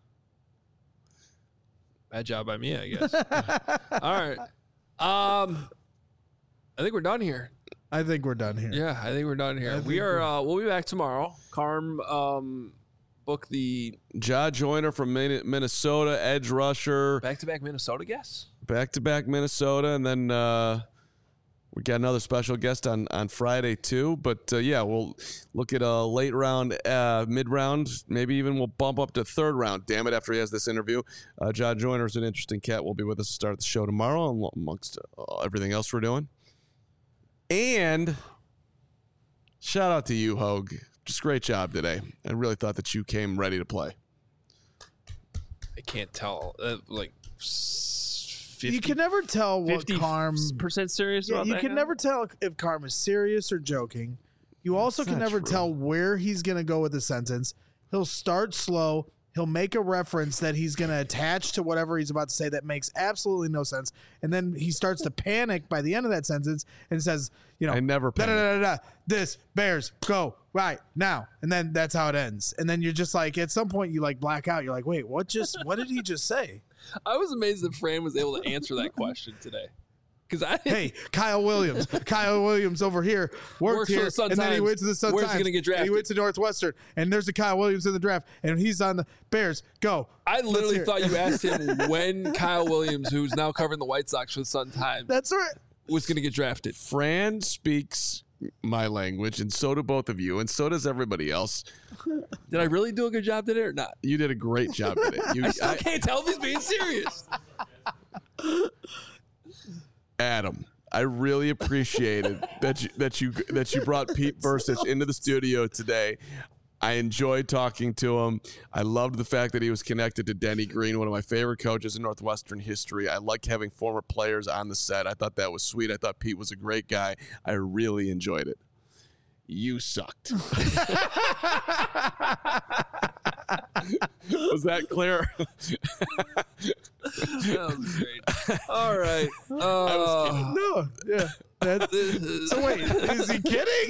Bad job by me, I guess. All right. I think we're done here. I think we're done here. Yeah, I think we're done here. We are. We'll be back tomorrow. Carm book the Ja Joyner from Minnesota, edge rusher, back-to-back Minnesota guests. back-to-back Minnesota, and then we got another special guest on Friday too. But yeah, we'll look at a late round, mid-round, maybe even we'll bump up to third round. Damn it! After he has this interview, Ja Joyner is an interesting cat. Will be with us to start the show tomorrow, amongst everything else we're doing. And shout out to you, Hogue. Just great job today. I really thought that you came ready to play. I can't tell. Like 50, You can never tell what 50% serious Yeah, about you that can guy? never tell if Carm is serious or joking. You also can not never true. tell where he's going to go with the sentence. He'll start slow. He'll make a reference that he's going to attach to whatever he's about to say that makes absolutely no sense. And then he starts to panic by the end of that sentence and says, you know, I never da, da, panic. da, da, this Bears go right now. And then that's how it ends. And then you're just like, at some point you like black out. You're like, wait, what did he just say? I was amazed that Fran was able to answer that question today. Because I Hey, Kyle Williams. Kyle Williams over here worked Works for here, the Sun and then he Times. went to the Sun Where's he Times. gonna get and drafted? He went to Northwestern, and there's a Kyle Williams in the draft, and he's on the Bears. Go. I Let's literally hear it. thought you asked him when Kyle Williams, who's now covering the White Sox for the Sun Times, That's right. was going to get drafted. Fran speaks my language, and so do both of you, and so does everybody else. Did I really do a good job today or not? You did a great job today. I still can't tell if he's being serious. Adam, I really appreciated that you brought Pete Bursich into the studio today. I enjoyed talking to him. I loved the fact that he was connected to Denny Green, one of my favorite coaches in Northwestern history. I like having former players on the set. I thought that was sweet. I thought Pete was a great guy. I really enjoyed it. You sucked. Was that clear? That was great. All right. I was kidding. No, yeah. That,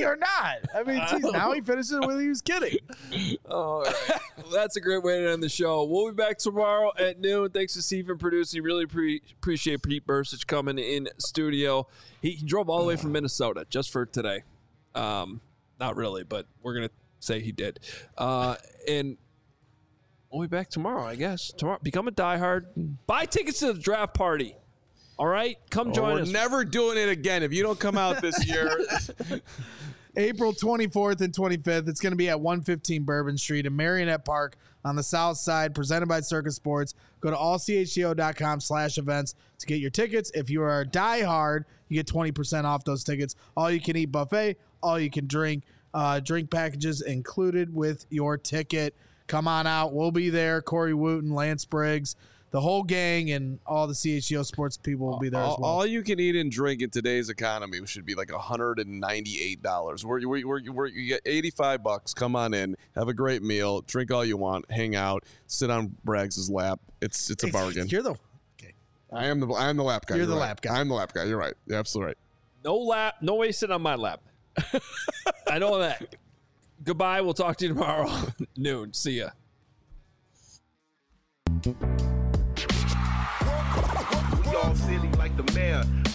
kidding or not? I mean, geez, now he finishes it with he was kidding. All right. Well, that's a great way to end the show. We'll be back tomorrow at noon. Thanks to Stephen producing. Really appreciate Pete Bursich coming in studio. He drove all the way from Minnesota just for today. Not really, but we're going to say he did. And we'll be back tomorrow, I guess. Tomorrow, become a diehard. Buy tickets to the draft party. All right? Come join us. We're never doing it again. If you don't come out this year. April 24th and 25th. It's going to be at 115 Bourbon Street in Marionette Park on the south side, presented by Circus Sports. Go to allchgo.com/events to get your tickets. If you are a diehard, you get 20% off those tickets. All you can eat buffet, all you can drink. Drink packages included with your ticket. Come on out. We'll be there. Corey Wooten, Lance Briggs, the whole gang, and all the CHGO sports people will be there as well. All you can eat and drink in today's economy should be like $198. Where you get $85. Come on in, have a great meal, drink all you want, hang out, sit on Braggs' lap. It's a bargain. You're the I am the lap guy. You're the lap guy. I'm the lap guy. You're right. You're absolutely right. No way sit on my lap. I know that. Goodbye. We'll talk to you tomorrow noon. See ya. We all silly like the mayor.